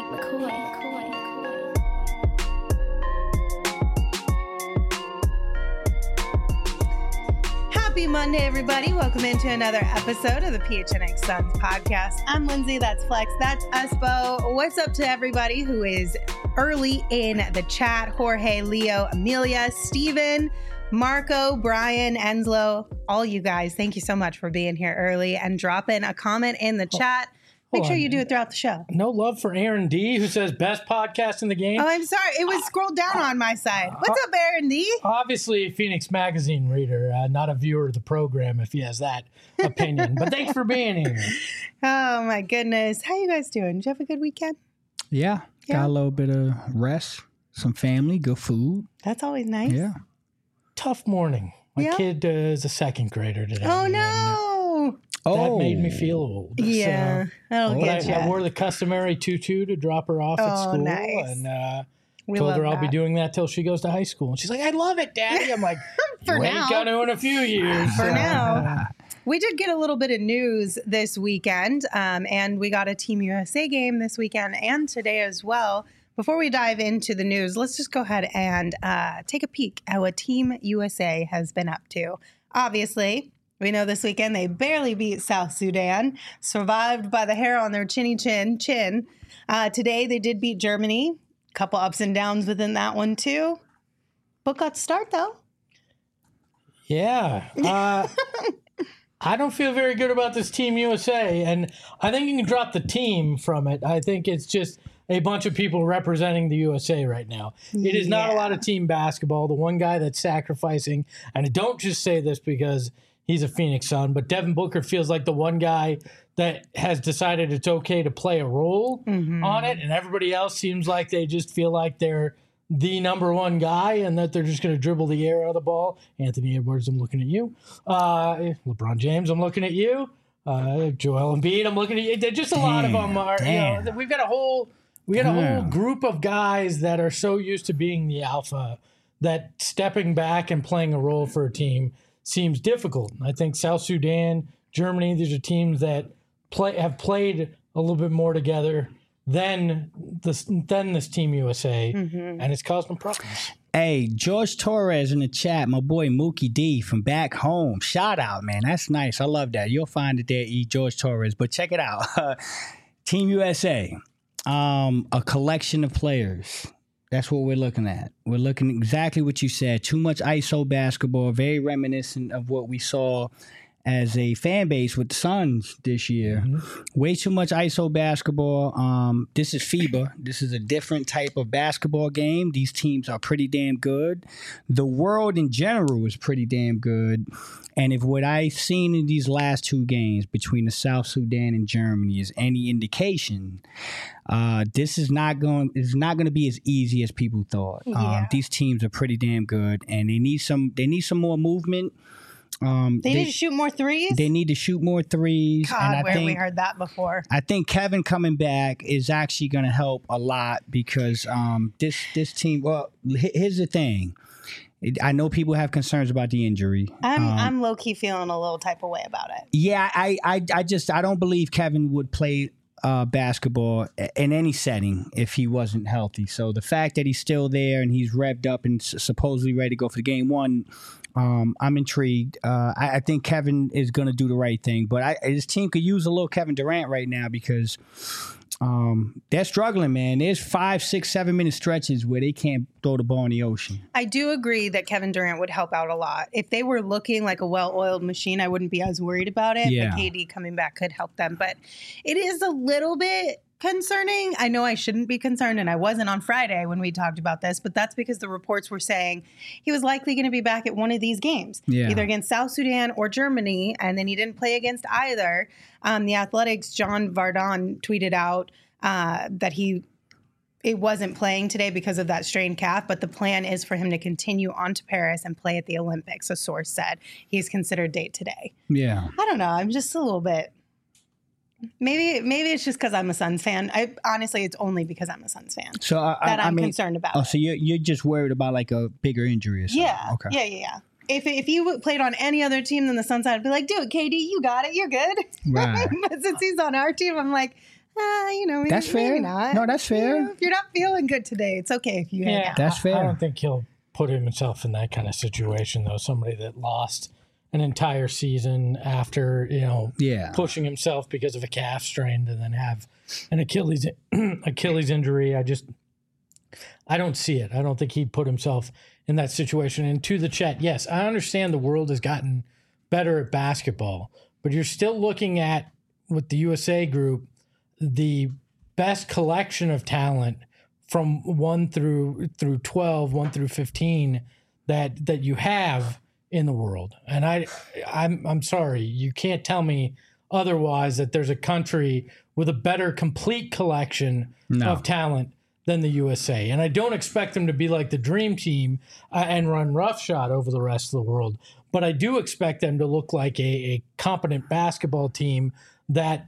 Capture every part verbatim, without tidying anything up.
McCoy, McCoy, McCoy. Happy Monday, everybody. Welcome into another episode of the P H N X Suns podcast. I'm Lindsay. That's Flex. That's Uspo. What's up to everybody who is early in the chat? Jorge, Leo, Amelia, Steven, Marco, Brian, Enslow, all you guys. Thank you so much for being here early and dropping a comment in the chat. Make sure you do it throughout the show. No love for Aaron D, who says best podcast in the game. Oh, I'm sorry. It was scrolled down on my side. What's up, Aaron D? Obviously, a Phoenix Magazine reader, uh, not a viewer of the program if he has that opinion. But thanks for being here. Oh, my goodness. How you guys doing? Did you have a good weekend? Yeah, Yeah. got a little bit of rest, some family, good food. That's always nice. Yeah. Tough morning. My Yeah. kid uh, is a second grader today. Oh, and, uh, no. That made me feel old. Yeah. So, That'll but get I, you. I wore the customary tutu to drop her off at Oh, school. nice. And uh, We told love her I'll be that. doing that till she goes to high school. And she's like, I love it, Daddy. I'm like, For you now. ain't gonna in a few years. For So, now. We did get a little bit of news this weekend, um, and we got a Team U S A game this weekend and today as well. Before we dive into the news, let's just go ahead and uh, take a peek at what Team U S A has been up to. Obviously, we know this weekend they barely beat South Sudan, survived by the hair on their chinny chin chin. Uh, today they did beat Germany. A couple ups and downs within that one too. But got to start though. Yeah. Uh, I don't feel very good about this Team U S A, and I think you can drop the team from it. I think it's just a bunch of people representing the U S A right now. It is not a Yeah. lot of team basketball. The one guy that's sacrificing, and I don't just say this because he's a Phoenix Sun, but Devin Booker feels like the one guy that has decided it's okay to play a role on it, and everybody else seems like they just feel like they're the number one guy and that they're just going to dribble the air out of the ball. Anthony Edwards, I'm looking at you. Uh, LeBron James, I'm looking at you. Uh, Joel Embiid, I'm looking at you. They're just a lot of them are. You know, damn. we've got a whole we got a whole Damn. group of guys that are so used to being the alpha that stepping back and playing a role for a team seems difficult. I think South Sudan, Germany, these are teams that play have played a little bit more together than this than this Team U S A, Mm-hmm. and it's caused them problems. Hey, George Torres in the chat, my boy Mookie D from back home. Shout out, man. That's nice. I love that. You'll find it there, E. George Torres. But check it out. Team U S A, um, a collection of players. That's what we're looking at. We're looking exactly what you said. Too much I S O basketball, very reminiscent of what we saw as a fan base with the Suns this year. Way too much I S O basketball. Um, this is FIBA. This is a different type of basketball game. These teams are pretty damn good. The world in general is pretty damn good. And if what I've seen in these last two games between the South Sudan and Germany is any indication, uh, this is not going is not going to be as easy as people thought. Yeah. Um, these teams are pretty damn good, and they need some they need some more movement. Um, They, need to shoot more threes? they need to shoot more threes. God, and I where think, we heard that before. I think Kevin coming back is actually going to help a lot because um, this this team. Well, h- here's the thing. It- I know people have concerns about the injury. I'm Um, I'm low key feeling a little type of way about it. yeah, I, I I just I don't believe Kevin would play uh, basketball in any setting if he wasn't healthy. So the fact that he's still there and he's revved up and s- supposedly ready to go for game one. Um, I'm intrigued. Uh, I, I think Kevin is going to do the right thing, but I, his team could use a little Kevin Durant right now because um, they're struggling, man. There's five, six, seven minute stretches where they can't throw the ball in the ocean. I do agree that Kevin Durant would help out a lot. If they were looking like a well-oiled machine, I wouldn't be as worried about it. Yeah. But K D coming back could help them. But it is a little bit concerning. I know I shouldn't be concerned, and I wasn't on Friday when we talked about this, but that's because the reports were saying he was likely going to be back at one of these games, Yeah. either against South Sudan or Germany, and then he didn't play against either. Um, the Athletics' John Vardon tweeted out uh, that he it wasn't playing today because of that strained calf, but the plan is for him to continue on to Paris and play at the Olympics, a source said. He's considered date today. Yeah. I don't know. I'm just a little bit. Maybe maybe it's just because I'm a Suns fan. I honestly, it's only because I'm a Suns fan So I, I, that I'm I mean, concerned about. oh, it. so you're you're just worried about like a bigger injury or something? Yeah. Okay. Yeah, yeah, yeah. If if you played on any other team than the Suns, I'd be like, dude, K D, you got it. You're good. Right. But since he's on our team, I'm like, Uh, you know, maybe, That's fair. maybe not. No, that's fair. You know, if you're not feeling good today, it's okay if you hang Yeah, out. That's I- fair. I don't think he'll put himself in that kind of situation, though. Somebody that lost an entire season after, you know, Yeah. pushing himself because of a calf strain and then have an Achilles Achilles injury. I just, I don't see it. I don't think he'd put himself in that situation. And to the chat, yes, I understand the world has gotten better at basketball, but you're still looking at, with the U S A group, the best collection of talent from one through through twelve, one through fifteen that that you have in the world. And I I'm I'm sorry, you can't tell me otherwise that there's a country with a better complete collection No. of talent than the U S A. And I don't expect them to be like the dream team uh, and run roughshod over the rest of the world, but I do expect them to look like a, a competent basketball team that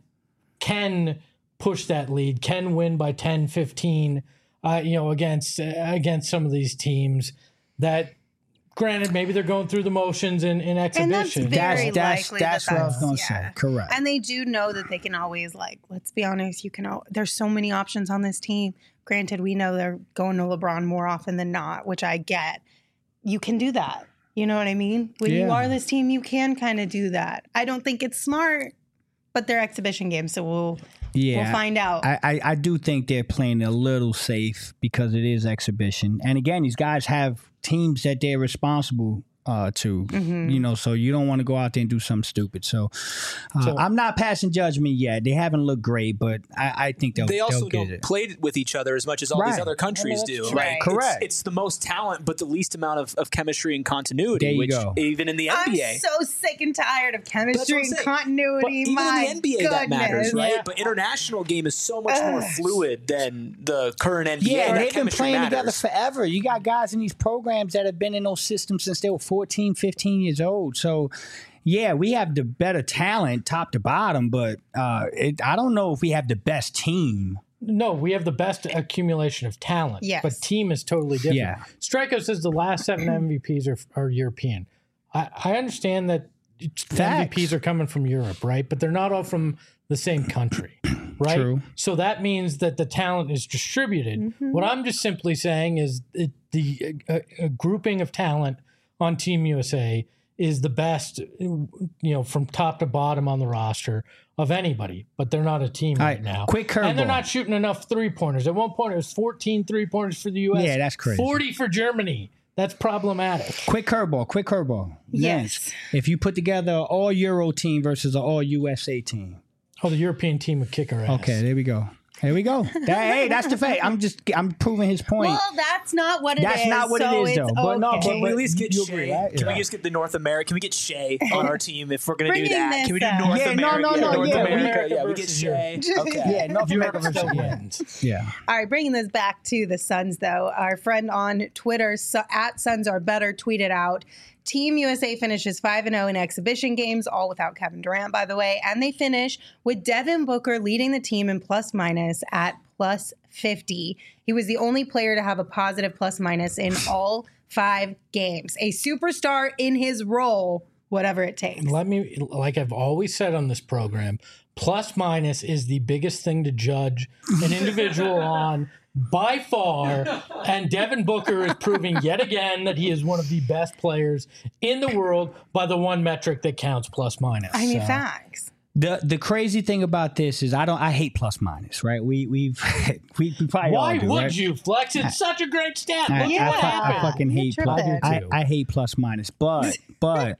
can push that lead, can win by ten, fifteen, uh, you know, against uh, against some of these teams that, granted, maybe they're going through the motions in, in And that's exhibition. very That's that's likely that's that what I was that's- going to yeah. say. Correct. And they do know that they can always, like, let's be honest, you can. al- There's so many options on this team. Granted, we know they're going to LeBron more often than not, which I get. You can do that. You know what I mean? When you Yeah. are this team, you can kind of do that. I don't think it's smart, but they're exhibition games, so we'll yeah. we'll find out. I, I, I do think they're playing a little safe because it is exhibition. And again, these guys have teams that they're responsible uh, to, Mm-hmm. you know, so you don't want to go out there and do something stupid. So, uh, So- I'm not passing judgment yet. They haven't looked great, but I, I think they'll, They also they'll get don't it. play with each other as much as all these Right. other countries Well, do. that's Like, true. it's- Correct. It's, the most talent, but the least amount of, of chemistry and continuity. There you which go. even in the N I'm B A, so sick and tired of That's chemistry what I'm and saying. continuity. but even My in the N B A that matters, goodness. right? Yeah. But international game is so much more Ugh. fluid than the current N B A. Yeah, that they've been chemistry playing matters. together forever. You got guys in these programs that have been in those systems since they were fourteen, fifteen years old. So, yeah, we have the better talent top to bottom, but uh, it, I don't know if we have the best team. No, we have the best accumulation of talent. Yes. But team is totally different. Yeah. Striker says the last seven M V Ps are, are European. I, I understand that it's- the Facts. M V Ps are coming from Europe, right? But they're not all from the same country, right? True. So that means that the talent is distributed. Mm-hmm. What I'm just simply saying is it, the uh, uh, grouping of talent on Team U S A is the best, you know, from top to bottom on the roster of anybody, but they're not a team All right, right, now. quick And they're curveball. not shooting enough three pointers. At one point, it was fourteen three pointers for the U S. Yeah, that's crazy. forty for Germany. That's problematic. Quick curveball, quick curveball. Yes. Lance, if you put together an all Euro team versus an all U S A team. Oh, the European team would kick our ass. Okay, there we go. There we go. That, hey, that's the fact. I'm just I'm proving his point. Well, that's not what it is. That's not what it so is, it's though. But no, okay. Can we at least get You Shea? agree, right? Can Yeah. we just get the North America? Can we get Shea on our team if we're going to do Bringing that? Can we do this up. North Yeah, no, America? no, no, North yeah, America. we- Yeah, we get versus Shea. Okay. yeah, North America Europe versus still yeah. wins. yeah. All right, bringing this back to the Suns, though. Our friend on Twitter, so, at Suns Are Better, tweeted out, Team U S A finishes five and oh in exhibition games, all without Kevin Durant, by the way. And they finish with Devin Booker leading the team in plus minus at plus fifty. He was the only player to have a positive plus minus in all five games. A superstar in his role, whatever it takes. Let me, like I've always said on this program, plus minus is the biggest thing to judge an individual on by far. And Devin Booker is proving yet again that he is one of the best players in the world by the one metric that counts, plus minus. I mean, So, facts. The the crazy thing about this is I don't I hate plus minus, right? We we've we, we probably Why all do, would right? you, Flex? It's such a great stat. I, Look Yeah. at I, what fu- I happened. fucking You're hate plus. tripping. I, too. I hate plus minus, but but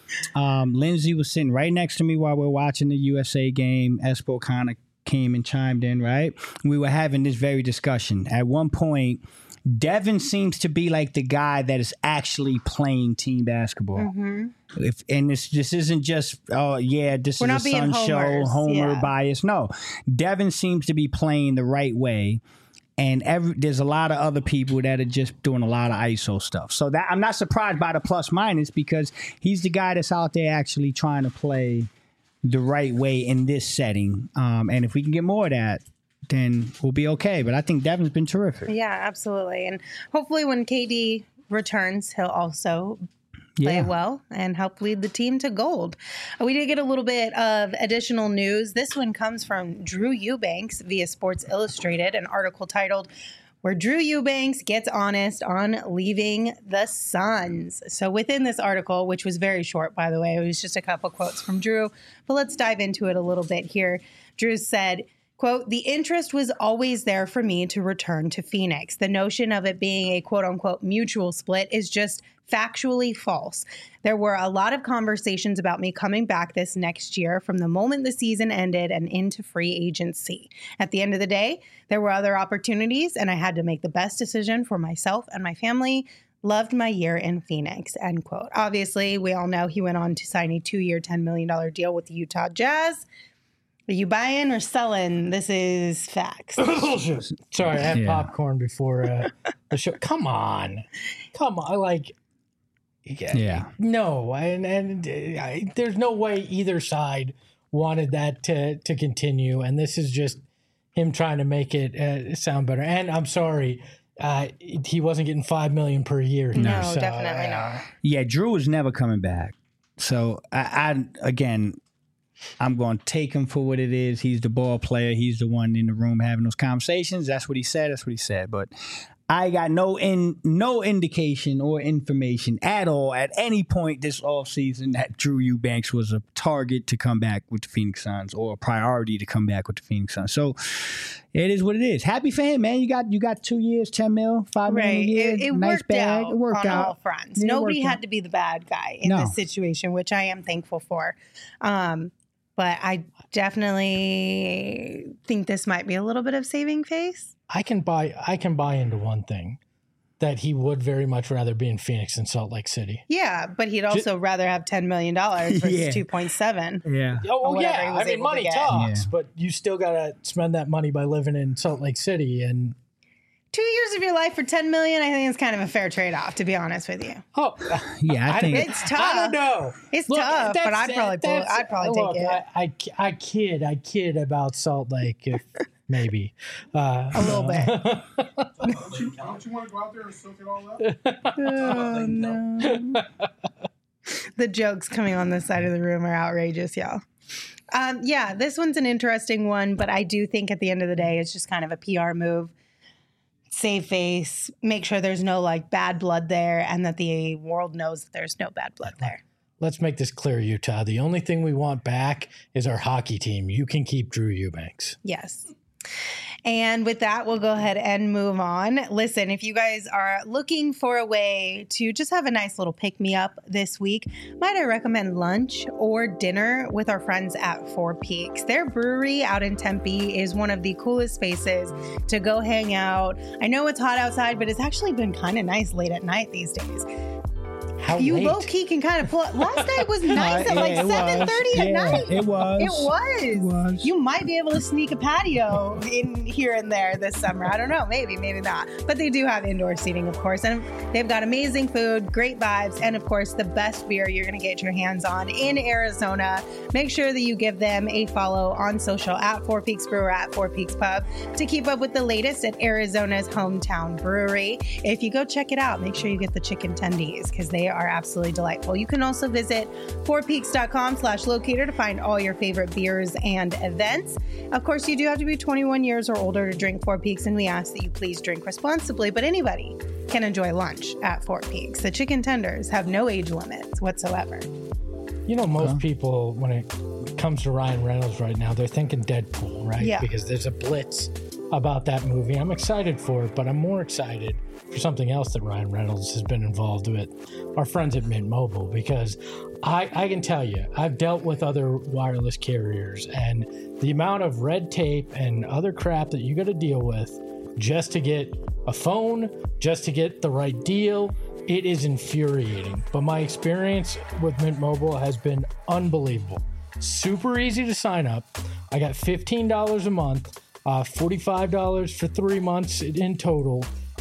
um, Lindsay was sitting right next to me while we are watching the U S A game. Espo kind of came and chimed in, right? We were having this very discussion. At one point, Devin seems to be like the guy that is actually playing team basketball. Mm-hmm. If and this this isn't just oh yeah this We're is not a being Sun show homers, homer yeah. bias. No, Devin seems to be playing the right way, and every there's a lot of other people that are just doing a lot of I S O stuff. So that I'm not surprised by the plus minus because he's the guy that's out there actually trying to play the right way in this setting. Um, and if we can get more of that, then we'll be okay. But I think Devin's been terrific. Yeah, absolutely. And hopefully when K D returns, he'll also play Yeah. well, and help lead the team to gold. Uh, We did get a little bit of additional news. This one comes from Drew Eubanks via Sports Illustrated, an article titled Where Drew Eubanks Gets Honest on Leaving the Suns. So within this article, which was very short, by the way, it was just a couple quotes from Drew, but let's dive into it a little bit here. Drew said, quote, the interest was always there for me to return to Phoenix. The notion of it being a quote unquote mutual split is just factually false. There were a lot of conversations about me coming back this next year from the moment the season ended and into free agency. At the end of the day, there were other opportunities and I had to make the best decision for myself and my family. Loved my year in Phoenix, end quote. Obviously, we all know he went on to sign a two-year, ten million dollars deal with the Utah Jazz. Are you buying or selling? This is facts. Sorry, I had Yeah. popcorn before uh, the show. Come on. Come on. Like, yeah. Yeah. No, and, and uh, I, there's no way either side wanted that to, to continue. And this is just him trying to make it uh, sound better. And I'm sorry, uh, he wasn't getting five million dollars per year. No, so, definitely uh, not. Yeah, Drew was never coming back. So I, I again, I'm going to take him for what it is. He's the ball player. He's the one in the room having those conversations. That's what he said. That's what he said. But I got no in no indication or information at all at any point this offseason that Drew Eubanks was a target to come back with the Phoenix Suns or a priority to come back with the Phoenix Suns. So it is what it is. Happy for him, man. You got you got two years, ten mil, five million Right. a year. It, it nice worked bag. out It worked on out. all fronts. It Nobody worked had out. to be the bad guy in No. this situation, which I am thankful for. Um, but I definitely think this might be a little bit of saving face. I can buy I can buy into one thing, that he would very much rather be in Phoenix than Salt Lake City. Yeah, but he'd also rather have ten million dollars versus Yeah. two point seven. Yeah. Oh Or whatever he yeah, was I mean able to money get. talks, Yeah. but you still gotta spend that money by living in Salt Lake City. And Two years of your life for ten million, I think is kind of a fair trade-off, to be honest with you. oh, Yeah, I think It's tough. I don't know. It's Look, tough, but that's- I'd probably pull, that's- I'd probably look, take it. I, I, I kid, I kid about Salt Lake, if maybe uh, A little bit. Don't you, don't you want to go out there and soak it all up? Oh, no. The jokes coming on this side of the room are outrageous, y'all. Um, yeah, this one's an interesting one, but I do think at the end of the day, it's just kind of a P R move. Save face, make sure there's no like bad blood there, and that the world knows that there's no bad blood there. Let's make this clear, Utah. The only thing we want back is our hockey team. You can keep Drew Eubanks. Yes. And with that, we'll go ahead and move on. Listen, if you guys are looking for a way to just have a nice little pick me up this week, might I recommend lunch or dinner with our friends at Four Peaks. Their brewery out in Tempe is one of the coolest spaces to go hang out. I know it's hot outside, but it's actually been kind of nice late at night these days. How You late? low key can kind of pull up. Last night was nice at Yeah, like it was. seven thirty at Yeah, night. it was. It was. It was. You might be able to sneak a patio in here and there this summer. I don't know. Maybe, maybe not. But they do have indoor seating, of course. And they've got amazing food, great vibes, and of course, the best beer you're going to get your hands on in Arizona. Make sure that you give them a follow on social at Four Peaks Brewer at Four Peaks Pub to keep up with the latest at Arizona's hometown brewery. If you go check it out, make sure you get the chicken tendies because they are absolutely delightful. You can also visit fourpeaks.com slash locator to find all your favorite beers and events. Of course, you do have to be twenty-one years or older to drink Four Peaks, and we ask that you please drink responsibly, but anybody can enjoy lunch at Four Peaks. The chicken tenders have no age limits whatsoever. You know, most people, when it comes to Ryan Reynolds right now, they're thinking Deadpool, right? Yeah. Because there's a blitz about that movie. I'm excited for it, but I'm more excited for something else that Ryan Reynolds has been involved with, our friends at Mint Mobile, because I, I can tell you, I've dealt with other wireless carriers, and the amount of red tape and other crap that you got to deal with just to get a phone, just to get the right deal, it is infuriating. But my experience with Mint Mobile has been unbelievable. Super easy to sign up. I got fifteen dollars a month, uh, forty-five dollars for three months in total.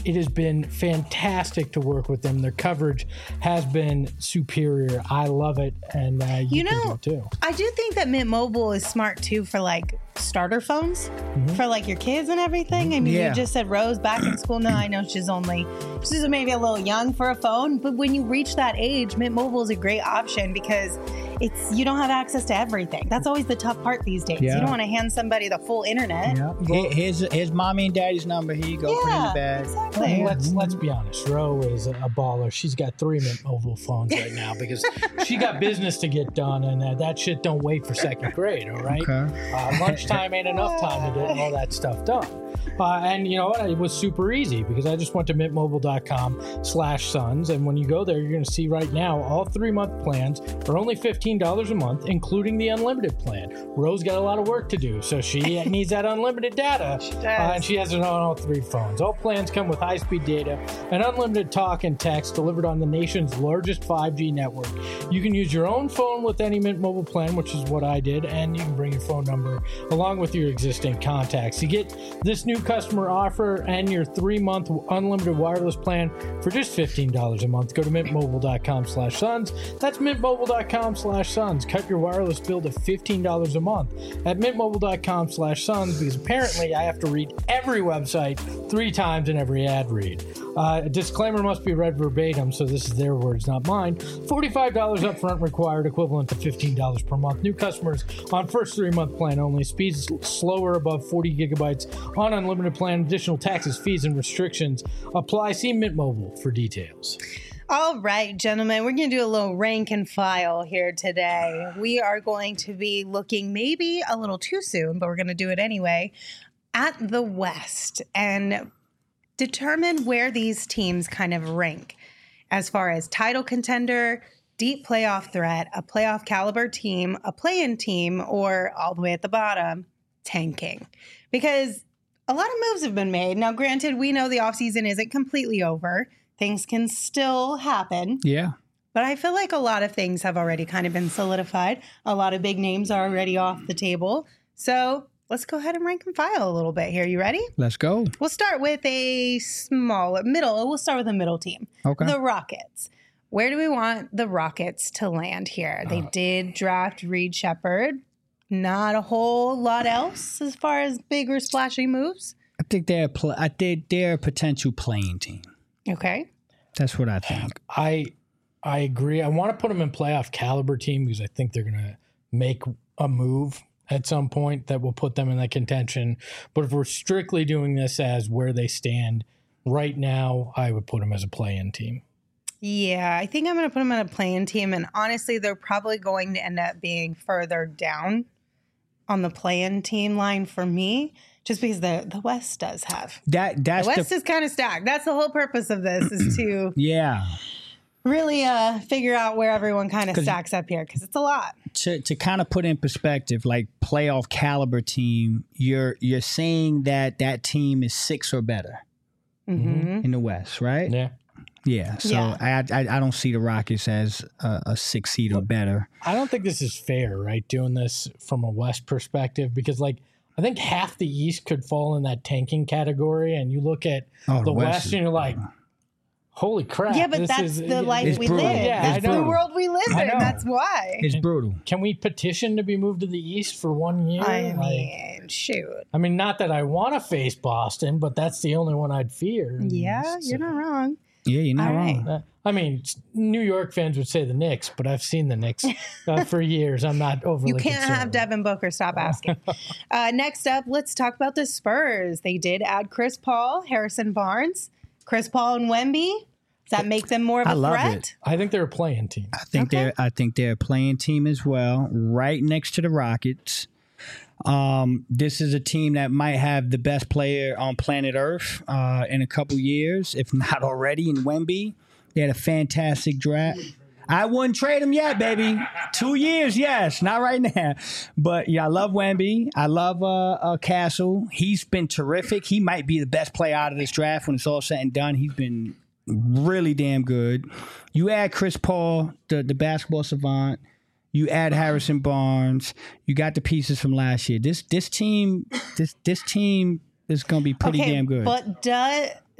it has been fantastic to work with them. Their coverage has been superior. I love it, and uh, you, You can know, do it too. I do think that Mint Mobile is smart too for like starter phones Mm-hmm. for like your kids and everything. I mean, Yeah. you just said Rose back in school now. I know she's only she's maybe a little young for a phone, but when you reach that age, Mint Mobile is a great option because it's you don't have access to everything. That's always the tough part these days. Yeah. You don't want to hand somebody the full internet. Yeah. Here- here's here's mommy and daddy's number. Here you go. Put it in the Yeah, bag. exactly. And let's let's be honest. Ro is a baller. She's got three Mint Mobile phones right now because she got business to get done, and uh, that shit don't wait for second grade. All right, Okay. uh, lunchtime ain't enough time to get all that stuff done. Uh, and you know what? It was super easy because I just went to mintmobile.com slash sons. And when you go there, you're going to see right now all three month plans are only fifteen dollars a month, including the unlimited plan. Rose got a lot of work to do, so she needs that unlimited data. She does. Uh, and she has it on all three phones. All plans come with high speed data and unlimited talk and text delivered on the nation's largest five G network. You can use your own phone with any Mint Mobile plan, which is what I did, and you can bring your phone number along with your existing contacts. You get this new customer offer and your three-month unlimited wireless plan for just fifteen dollars a month. Go to mintmobile.com slash sons. That's mintmobile.com slash sons. Cut your wireless bill to fifteen dollars a month at mintmobile.com slash sons because apparently I have to read every website three times in every ad read. Uh, a disclaimer must be read verbatim, so this is their words, not mine. forty-five dollars upfront required, equivalent to fifteen dollars per month. New customers on first three-month plan only. Speeds slower above forty gigabytes on unlimited plan. Additional taxes, fees, and restrictions apply. See Mint Mobile for details. All right, gentlemen, we're going to do a little rank and file here today. We are going to be looking maybe a little too soon, but we're going to do it anyway, at the West and determine where these teams kind of rank as far as title contender, deep playoff threat, a playoff caliber team, a play-in team, or all the way at the bottom, tanking. Because a lot of moves have been made. Now, granted, we know the offseason isn't completely over. Things can still happen. Yeah. But I feel like a lot of things have already kind of been solidified. A lot of big names are already off the table. So let's go ahead and rank and file a little bit here. You ready? Let's go. We'll start with a small middle. We'll start with the middle team. Okay. The Rockets. Where do we want the Rockets to land here? They did draft Reed Shepherd. Not a whole lot else as far as big or splashy moves. I think they're a pl- I think they're a potential playing team. Okay. That's what I think. I I agree. I want to put them in playoff caliber team because I think they're going to make a move at some point that will put them in that contention. But if we're strictly doing this as where they stand right now, I would put them as a play-in team. Yeah, I think I'm going to put them on a play-in team. And honestly, they're probably going to end up being further down on the play-in team line for me, just because the, the West does have. That that's The West the is kind of stacked. That's the whole purpose of this is to yeah. really uh, figure out where everyone kind of stacks up here because it's a lot. To to kind of put in perspective, like playoff caliber team, you're you're saying that that team is six or better Mm-hmm. in the West, right? Yeah. Yeah. So Yeah. I, I I don't see the Rockets as a, a six seed or better. I don't think this is fair, right? Doing this from a West perspective, because like I think half the East could fall in that tanking category, and you look at Oh, the the West, West is- and you're like, "Holy crap!" Yeah, but this that's is- the life It's we brutal. live. Yeah, that's I the know. world we live I in. know. That's why. It's brutal. Can we petition to be moved to the East for one year? I Like, mean, shoot. I mean, not that I want to face Boston, but that's the only one I'd fear. in the Yeah, East, you're so- not wrong. Yeah, you're not All right. wrong. Uh, I mean, New York fans would say the Knicks, but I've seen the Knicks uh, for years. I'm not overly You can't have concerned. Devin Booker. Stop asking. uh, next up, let's talk about the Spurs. They did add Chris Paul, Harrison Barnes, Chris Paul, and Wemby. Does that make them more of a I love threat? it. I think they're a playing team. I think Okay. they're I think they're a playing team as well, right next to the Rockets. Um, this is a team that might have the best player on planet Earth uh, in a couple years, if not already, in Wemby. They had a fantastic draft. I wouldn't trade him yet, baby. Two years, yes, not right now. But yeah, I love Wemby. I love uh, uh, Castle. He's been terrific. He might be the best player out of this draft when it's all said and done. He's been really damn good. You add Chris Paul, the, the basketball savant. You add Harrison Barnes. You got the pieces from last year. This this team this this team is going to be pretty okay, damn good. But do,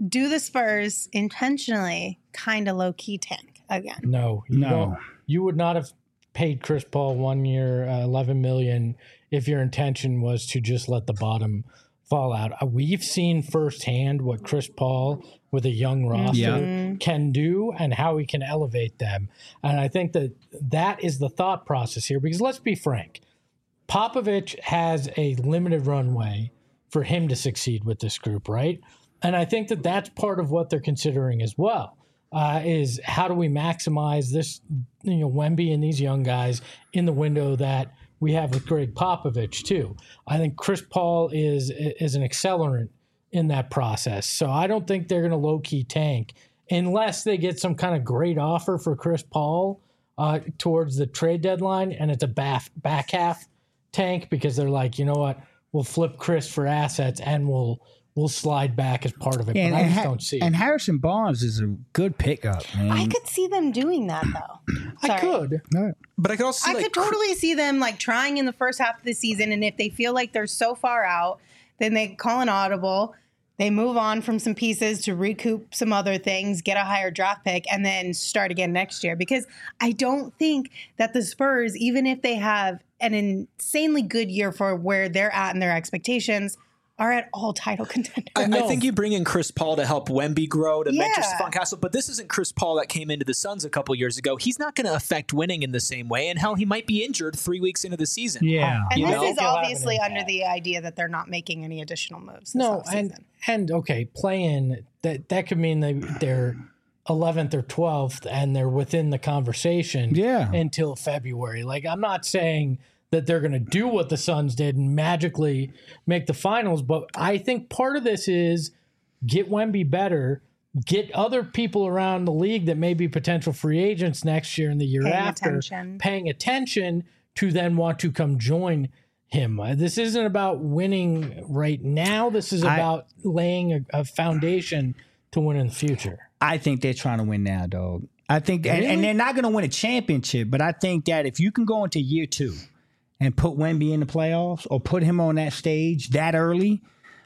do the Spurs intentionally kind of low key tank again? No, you No. don't. You would not have paid Chris Paul one year, uh, eleven million, if your intention was to just let the bottom fall out. Uh, we've seen firsthand what Chris Paul with a young roster Yeah. can do and how he can elevate them. And I think that that is the thought process here, because let's be frank, Popovich has a limited runway for him to succeed with this group, right? And I think that that's part of what they're considering as well. Uh, is how do we maximize this, you know, Wemby and these young guys in the window that we have with Greg Popovich too. I think Chris Paul is is an accelerant in that process. So I don't think they're going to low key tank unless they get some kind of great offer for Chris Paul uh, towards the trade deadline, and it's a back back half tank because they're like, you know what, we'll flip Chris for assets and we'll. We'll slide back as part of it, And, but I and just Ha- don't see and it. Harrison Barnes is a good pickup, man. I could see them doing that though. I Sorry. could. No. But I could also see I like could totally see them like trying in the first half of the season, and if they feel like they're so far out, then they call an audible. They move on from some pieces to recoup some other things, get a higher draft pick, and then start again next year. Because I don't think that the Spurs, even if they have an insanely good year for where they're at and their expectations, are at all title contenders. I, I think you bring in Chris Paul to help Wemby grow, to mentor Yeah. Stephon Castle, but this isn't Chris Paul that came into the Suns a couple years ago. He's not going to affect winning in the same way, and hell, he might be injured three weeks into the season. Yeah. And You this know? is He'll have an obviously under impact. the idea that they're not making any additional moves this No, offseason. and and okay, play-in, that that could mean they they're eleventh or twelfth and they're within the conversation Yeah. until February. Like, I'm not saying that they're going to do what the Suns did and magically make the finals, but I think part of this is get Wemby better, get other people around the league that may be potential free agents next year and the year Paying after attention. paying attention to then want to come join him. Uh, This isn't about winning right now. This is I- about laying a, a foundation to win in the future. I think they're trying to win now, dog. I think, and, Really? and they're not going to win a championship, but I think that if you can go into year two and put Wemby in the playoffs or put him on that stage that early,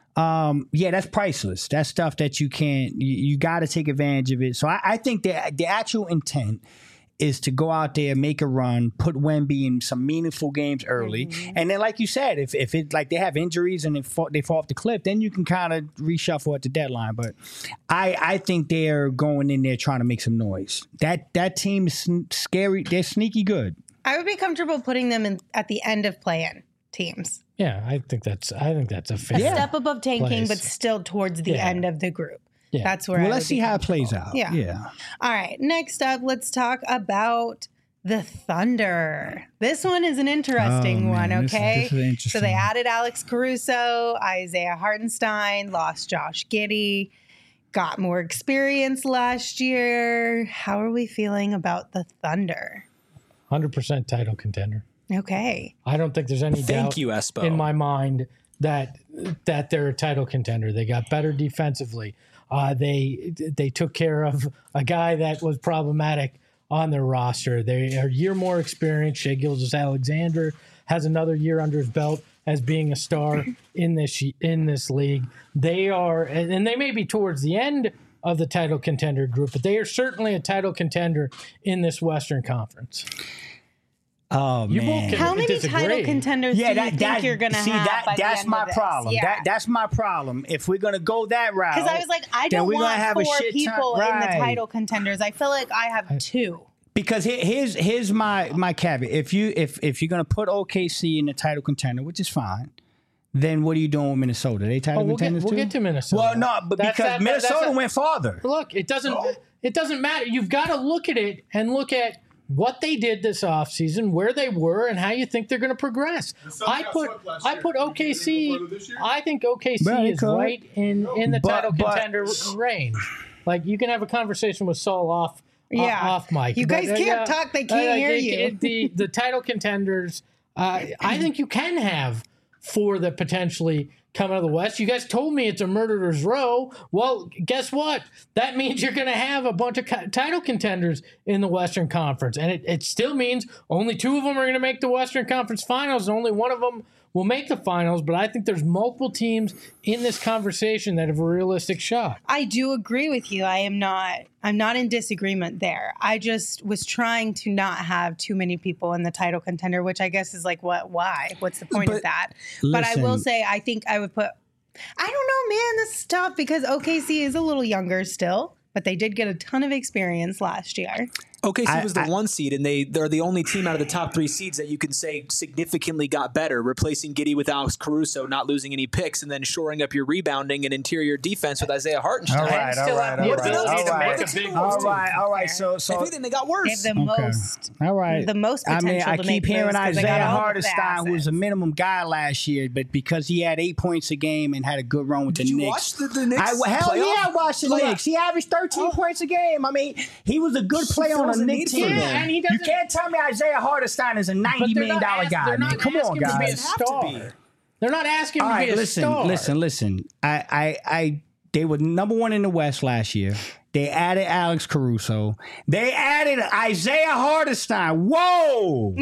um, yeah, that's priceless. That's stuff that you can't, you, you got to take advantage of it. So I, I think that the actual intent is to go out there, make a run, put Wemby in some meaningful games early. And then, like you said, if, if it like they have injuries and they fall, they fall off the cliff, then you can kind of reshuffle at the deadline. But I, I think they're going in there trying to make some noise. That that team is sn- scary. They're sneaky good. I would be comfortable putting them in at the end of play-in teams. Yeah, I think that's I think that's a fair. A step above tanking, place. but still towards the Yeah. end of the group. Yeah. That's where Well, I let's would be see how it comfortable. plays out. Yeah. Yeah. All right. Next up, let's talk about the Thunder. This one is an interesting Oh, one, man, this is- okay? this is interesting. So they added Alex Caruso, Isaiah Hartenstein, lost Josh Giddey, got more experience last year. How are we feeling about the Thunder? one hundred percent title contender. Okay. I don't think there's any Thank doubt you, Espo. in my mind that that they're a title contender. They got better defensively. Uh, they they took care of a guy that was problematic on their roster. They are a year more experienced. Shai Gilgeous-Alexander has another year under his belt as being a star in this in this league. They are, and and they may be towards the end of the title contender group, but they are certainly a title contender in this Western Conference. Oh, You man. both can- How many disagree. title contenders Yeah, do that, you think that, you're going to see, have that, by the that's end my of this? problem. Yeah. That, that's my problem. If we're going to go that route. Because I was like, I then don't we're gonna want have a four shit ton- people in right. the title contenders. I feel like I have two. Because here- here's here's my my caveat. If you if if you're gonna put O K C in the title contender, which is fine, then what are you doing with Minnesota? They title Oh, we'll get, contenders we'll too? get to Minnesota. Well, no, but That's- because that- that- Minnesota that's a- went farther. Look, it doesn't it doesn't matter. You've got to look at it and look at what they did this offseason, where they were, and how you think they're going to progress. Suns I got put swept last I year. put You O K C. think they go further this year? I think O K C Well, they is could. right in in the But- title but- contender range. Like, you can have a conversation with Saul off. Yeah. off mic. You But, guys uh, can't yeah, talk, they can't uh, hear it- you. it- the the title contenders. Uh, I think you can have four that potentially come out of the West. You guys told me it's a murderer's row. Well, guess what? That means you're going to have a bunch of co- title contenders in the Western Conference. And it, it still means only two of them are going to make the Western Conference Finals, and only one of them will make the finals, but I think there's multiple teams in this conversation that have a realistic shot. I do agree with you. I am not I'm not in disagreement there. I just was trying to not have too many people in the title contender, which I guess is like what why? What's the point But of that? But I will listen. say I think I would put I don't know, man, this is tough because O K C is a little younger still, but they did get a ton of experience last year. O K C I- was the I- one seed, and they they're the only team out of the top three seeds that you can say significantly got better, replacing Giddey with Alex Caruso, not losing any picks, and then shoring up your rebounding and interior defense with Isaiah Hartenstein. All right, still all have right, the all right, ability all to right. make a big All move. right, all right. So, If so anything, they got They worse. have the Okay. most all right. the most I mean, potential I to keep make hearing moves 'cause they got Isaiah all the Hartenstein, who was a assets. minimum guy last year, but because he had eight points a game and had a good run with Did the you Knicks. watch the, the Knicks I, hell playoff? yeah, I watched the Playoff. Knicks. He averaged thirteen points a game. I mean, he was a good player on fills a a Knicks need for team. them. Yeah, and he You doesn't- can't tell me Isaiah Hartenstein is a But ninety they're million not dollar ask- guy, they're man. not Come on, asking him to be a guys. Have to star. be. They're not asking him All to right, be a listen, star. listen, listen. I, I, I, they were number one in the West last year. They added Alex Caruso. They added Isaiah Hartenstein. Whoa!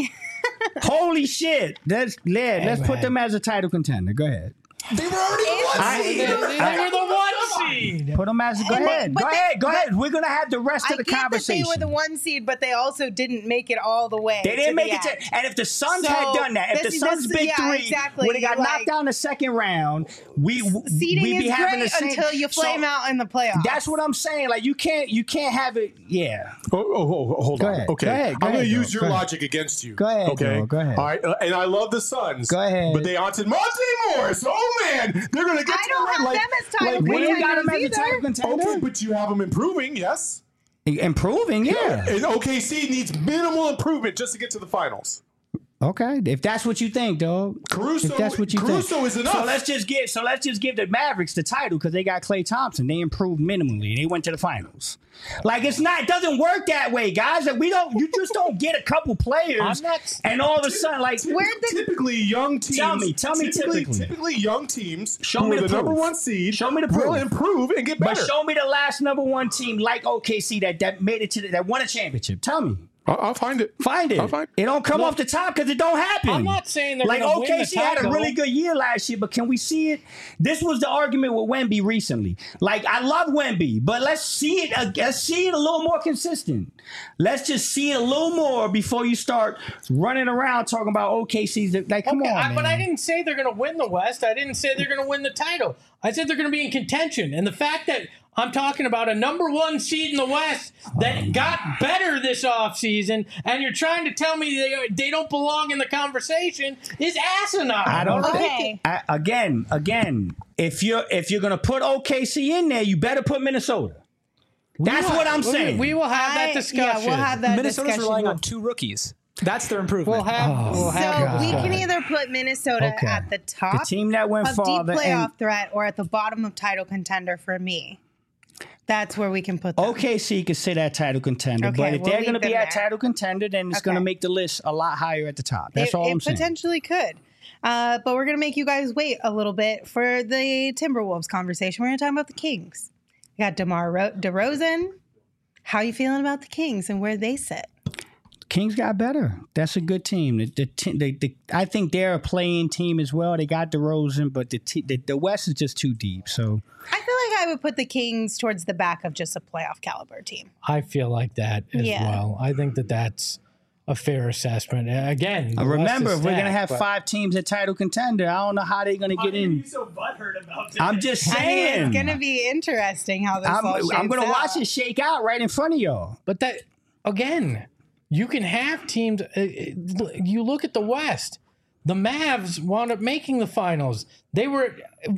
Holy shit! Let's let, let's put man. them as a title contender. Go ahead. They were already the one I- seed. They, they were the one seed. Put them as. Go And- ahead. but Go they- ahead. Go but- ahead. We're gonna have the rest I of the get that they conversation. were the one seed, but they also didn't make it all the way. They didn't to make the it end. to, and if the Suns So, had done that, if the this- Suns this- big yeah, three exactly. would have got Like, knocked out in the second round, we Seeding we'd be is having great the same. until you flame so, out in the playoffs. That's what I'm saying. Like you can't you can't have it. Yeah. Oh, oh, oh, hold Go on. ahead. Okay. Go ahead. Go I'm going ahead, to use Joe. your Go ahead. logic against you. Go ahead, Okay. Joe. Go ahead. All right. Uh, and I love the Suns. Go ahead. But they wanted Monte Morris. Oh, man. They're going to get I to don't the have like, them as title like, We ain't got him as a contenders title either. contender. Okay, but you have them improving, yes? Improving, yeah. And O K C needs minimal improvement just to get to the finals. Okay, if that's what you think, dog. Caruso, If that's what you Caruso think. is enough. So let's just give. So let's just give the Mavericks the title because they got Klay Thompson. They improved minimally. They went to the finals. Like it's not. It doesn't work that way, guys. Like we don't. You just don't get a couple players I'm not- and all of a sudden, like Typ- Where'd the- typically young teams. Tell me, tell me typically, typically. typically young teams Show who me are the the number proof. one seed. Show me the will proof. improve and get But better. show me the last number one team like O K C that, that made it to the, that won a championship. Tell me. I'll, I'll find it. Find it. I'll find It don't come Look, off the top because it don't happen. I'm not saying they're like gonna win the O K C had a title. really good year last year, but can we see it? This was the argument with Wemby recently. Like I love Wemby, but let's see it. Uh, let's see it a little more consistent. Let's just see it a little more before you start running around talking about O K C's. Like, come Okay, on, I- man. but I didn't say they're going to win the West. I didn't say they're going to win the title. I said they're going to be in contention. And the fact that I'm talking about a number one seed in the West that got better this offseason, and you're trying to tell me they, they don't belong in the conversation is asinine. I don't all right? Okay. I, again, again, if you're if you're gonna put O K C in there, you better put Minnesota. That's will- what I'm we- saying. We will have that I- discussion. Yeah, we'll have that Minnesota's discussion. relying on two rookies. That's their improvement. We'll have. we'll So have we that can discussion. either put Minnesota Okay. at the the top team that went of deep farther playoff and threat or at the bottom of title contender for me. That's where we can put them. O K C could say that title contender, Okay, but if we'll they're leave going to be them at there. title contender, then it's going to Okay. make the list a lot higher at the top. That's it, all it I'm saying. potentially could. Uh, but we're going to make you guys wait a little bit for the Timberwolves conversation. We're going to talk about the Kings. We got DeMar Ro- DeRozan. How you feeling about the Kings and where they sit? Kings got better. That's a good team. The, the, te- the, the I think they're a playing team as well. They got DeRozan, but the, te- the the West is just too deep. So I feel like I would put the Kings towards the back of just a playoff caliber team. I feel like that as Yeah. well. I think that that's a fair assessment. Uh, Again, the West remember, is if we're going to stacked, have but- five teams at title contender, I don't know how they're going to get in. so butthurt about this? I'm just I mean, saying. it's going to be interesting how this I'm, all shapes I'm going to out. watch it shake out right in front of y'all. But that again, you can have teams. Uh, uh, you look at the West. The Mavs wound up making the finals. They were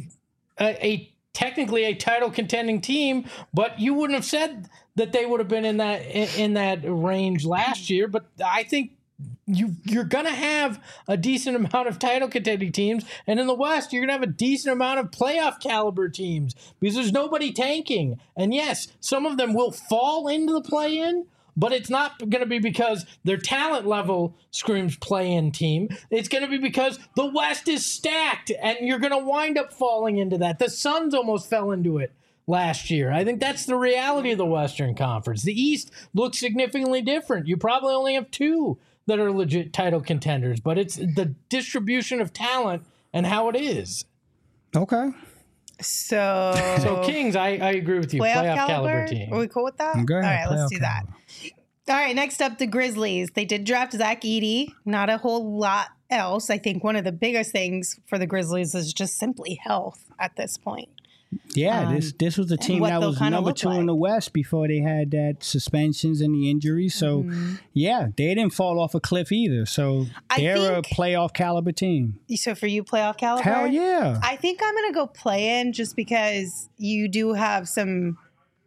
a, a technically a title contending team, but you wouldn't have said that they would have been in that in, in that range last year. But I think you you're gonna have a decent amount of title contending teams, and in the West, you're gonna have a decent amount of playoff caliber teams because there's nobody tanking. And yes, some of them will fall into the play-in. But it's not going to be because their talent level screams play-in team. It's going to be because the West is stacked, and you're going to wind up falling into that. The Suns almost fell into it last year. I think that's the reality of the Western Conference. The East looks significantly different. You probably only have two that are legit title contenders, but it's the distribution of talent and how it is. Okay. So, So Kings, I, I agree with you. playoff, Playoff, caliber? caliber team. Are we cool with that? Okay, All right, let's playoff do that. caliber. All right, next up, the Grizzlies. They did draft Zach Edey. Not a whole lot else. I think one of the biggest things for the Grizzlies is just simply health at this point. Yeah, Um, this this was a team what that they'll was kinda number look two in like. the West before they had that suspensions and the injuries. So, Mm-hmm. yeah, they didn't fall off a cliff either. So I they're a think- playoff caliber team. So for you, playoff caliber? Hell yeah. I think I'm gonna go play in just because you do have some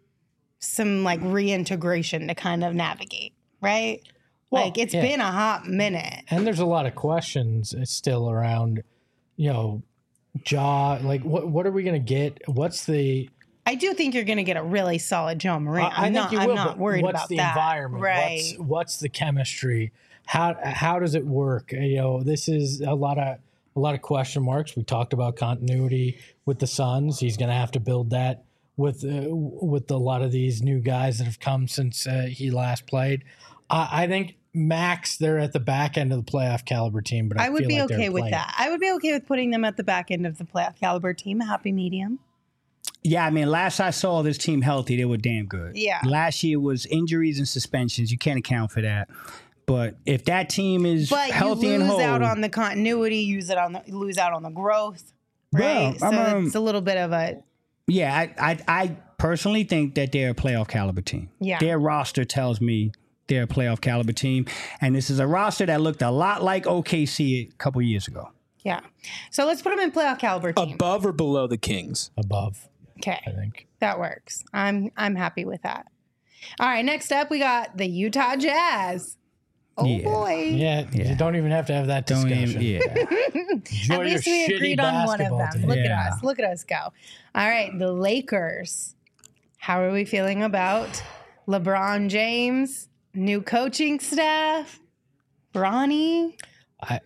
some like reintegration to kind of navigate, right? Well, like it's yeah. been a hot minute. And there's a lot of questions still around, you know, Jaw. Like, what what are we going to get? What's the? I do think you're gonna get a really solid John Morant. I I'm think not. you I'm will, not but worried what's about the that. environment? Right. What's, what's the chemistry? How how does it work? You know, this is a lot of a lot of question marks. We talked about continuity with the Suns. He's going to have to build that with uh, with a lot of these new guys that have come since uh, he last played. I I think max they're at the back end of the playoff caliber team, but I, I would feel be like they're okay with playing. that. I would be okay with putting them at the back end of the playoff caliber team. A happy medium. Yeah, I mean, last I saw this team healthy, they were damn good. Yeah. Last year was injuries and suspensions. You can't account for that. But if that team is But healthy you and lose whole, out on the continuity, use it on the lose out on the growth. Right. Well, so I'm, um, it's a little bit of a yeah, I, I I personally think that they're a playoff caliber team. Yeah. Their roster tells me they're a playoff caliber team, and this is a roster that looked a lot like O K C a couple years ago. yeah. So let's put them in playoff caliber team. Above or below the Kings? Above, Okay. I think. That works. I'm I'm happy with that. All right, next up we got the Utah Jazz. Oh Yeah. boy. Yeah, Yeah. you don't even have to have that Don't discussion. even, yeah. Enjoy At least your we shitty agreed on one of basketball them. team. Look Yeah. at us. Look at us go. All right, the Lakers. How are we feeling about LeBron James, new coaching staff, Bronny? I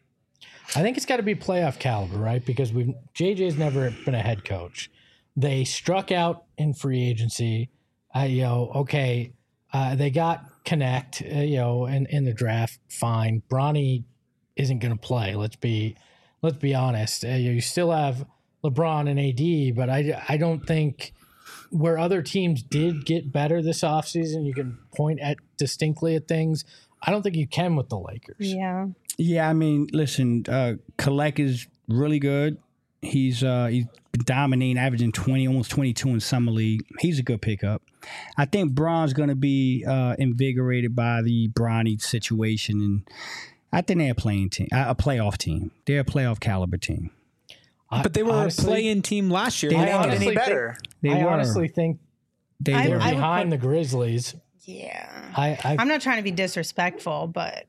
I think it's got to be playoff caliber, right? Because we've J J's never been a head coach. They struck out in free agency. I you know, okay, uh, they got Connect, uh, you know, in, in the draft. Fine, Bronny isn't going to play. Let's be let's be honest. Uh, you still have LeBron and A D, but I I don't think where other teams did get better this offseason, you can point at distinctly at things. I don't think you can with the Lakers. Yeah. Yeah, I mean, listen, uh, Collect is really good. He's uh, he's been dominating, averaging twenty, almost twenty-two in summer league. He's a good pickup. I think Bron's going to be uh, invigorated by the Bronny situation, and I think they're a playing team, a playoff team. They're a playoff caliber team. I- But they were honestly, a play-in team last year. They They were. didn't get honestly any better. They I were. honestly think They I- were. I would behind put- the Grizzlies. Yeah. I, I I'm not trying to be disrespectful, but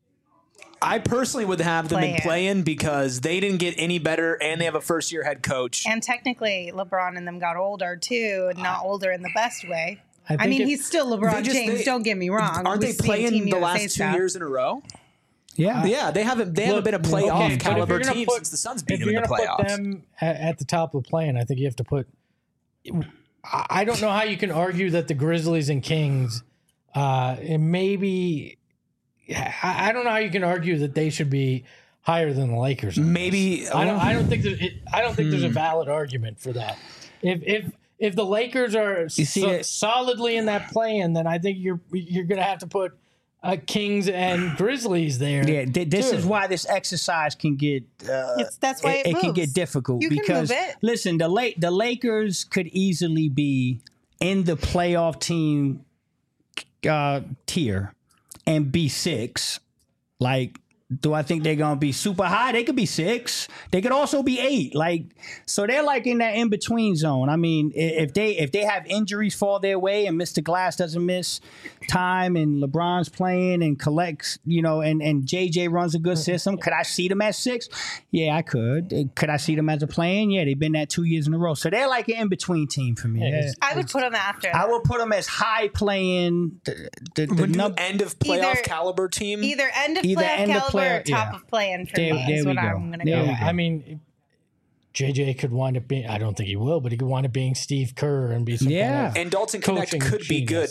I personally would have them in Play-in. play-in because they didn't get any better, and they have a first-year head coach. and technically LeBron and them got older too, not older in the best way. I, I, think mean, it- he's still They LeBron just- James. they- don't get me wrong. Aren't We've they seen playing Team the U S A last two stuff. years in a row? yeah. Yeah, they haven't. They haven't Look, been a okay, playoff but if caliber you're gonna team put- since the Suns beat if them in you're the going to put playoffs. them at, at the top of the play-in, I think you have to put. I I don't know how you can argue that the Grizzlies and Kings, uh, and maybe I, I don't know how you can argue that they should be higher than the Lakers. on this. Maybe I don't. I don't think that it, I don't think there's Hmm. a valid argument for that. If if if the Lakers are see so- it- solidly in that play-in, then I think you're you're going to have to put uh, Kings and Grizzlies there. Yeah, th- this too. is why this exercise can get. Uh, It's- that's why it it, can moves. get difficult You can because move it. listen, the La- the Lakers could easily be in the playoff team uh, tier and be six. Like, do I think they're gonna be super high? They could be six. They could also be eight. Like, so they're like in that in between zone. I mean, i- if they if they have injuries fall their way and Mister Glass doesn't miss time and LeBron's playing and collects, you know, and and J J runs a good system, could I see them at six? Yeah, I could. Could I see them as a playing? Yeah, they've been that two years in a row. So they're like an in between team for me. Yeah, Yeah. it's- I would put them after. I will put them as high playing. The, the, the Would you num- end of playoff Either- caliber team? either end of Either playoff end of caliber player- or top yeah. of playing for There- me there is we what go. I'm going to There go. we Yeah, I mean, J J could wind up being. I don't think he will, but he could wind up being Steve Kerr and be some Yeah. kind of and Dalton Connect coaching could be good, genius. but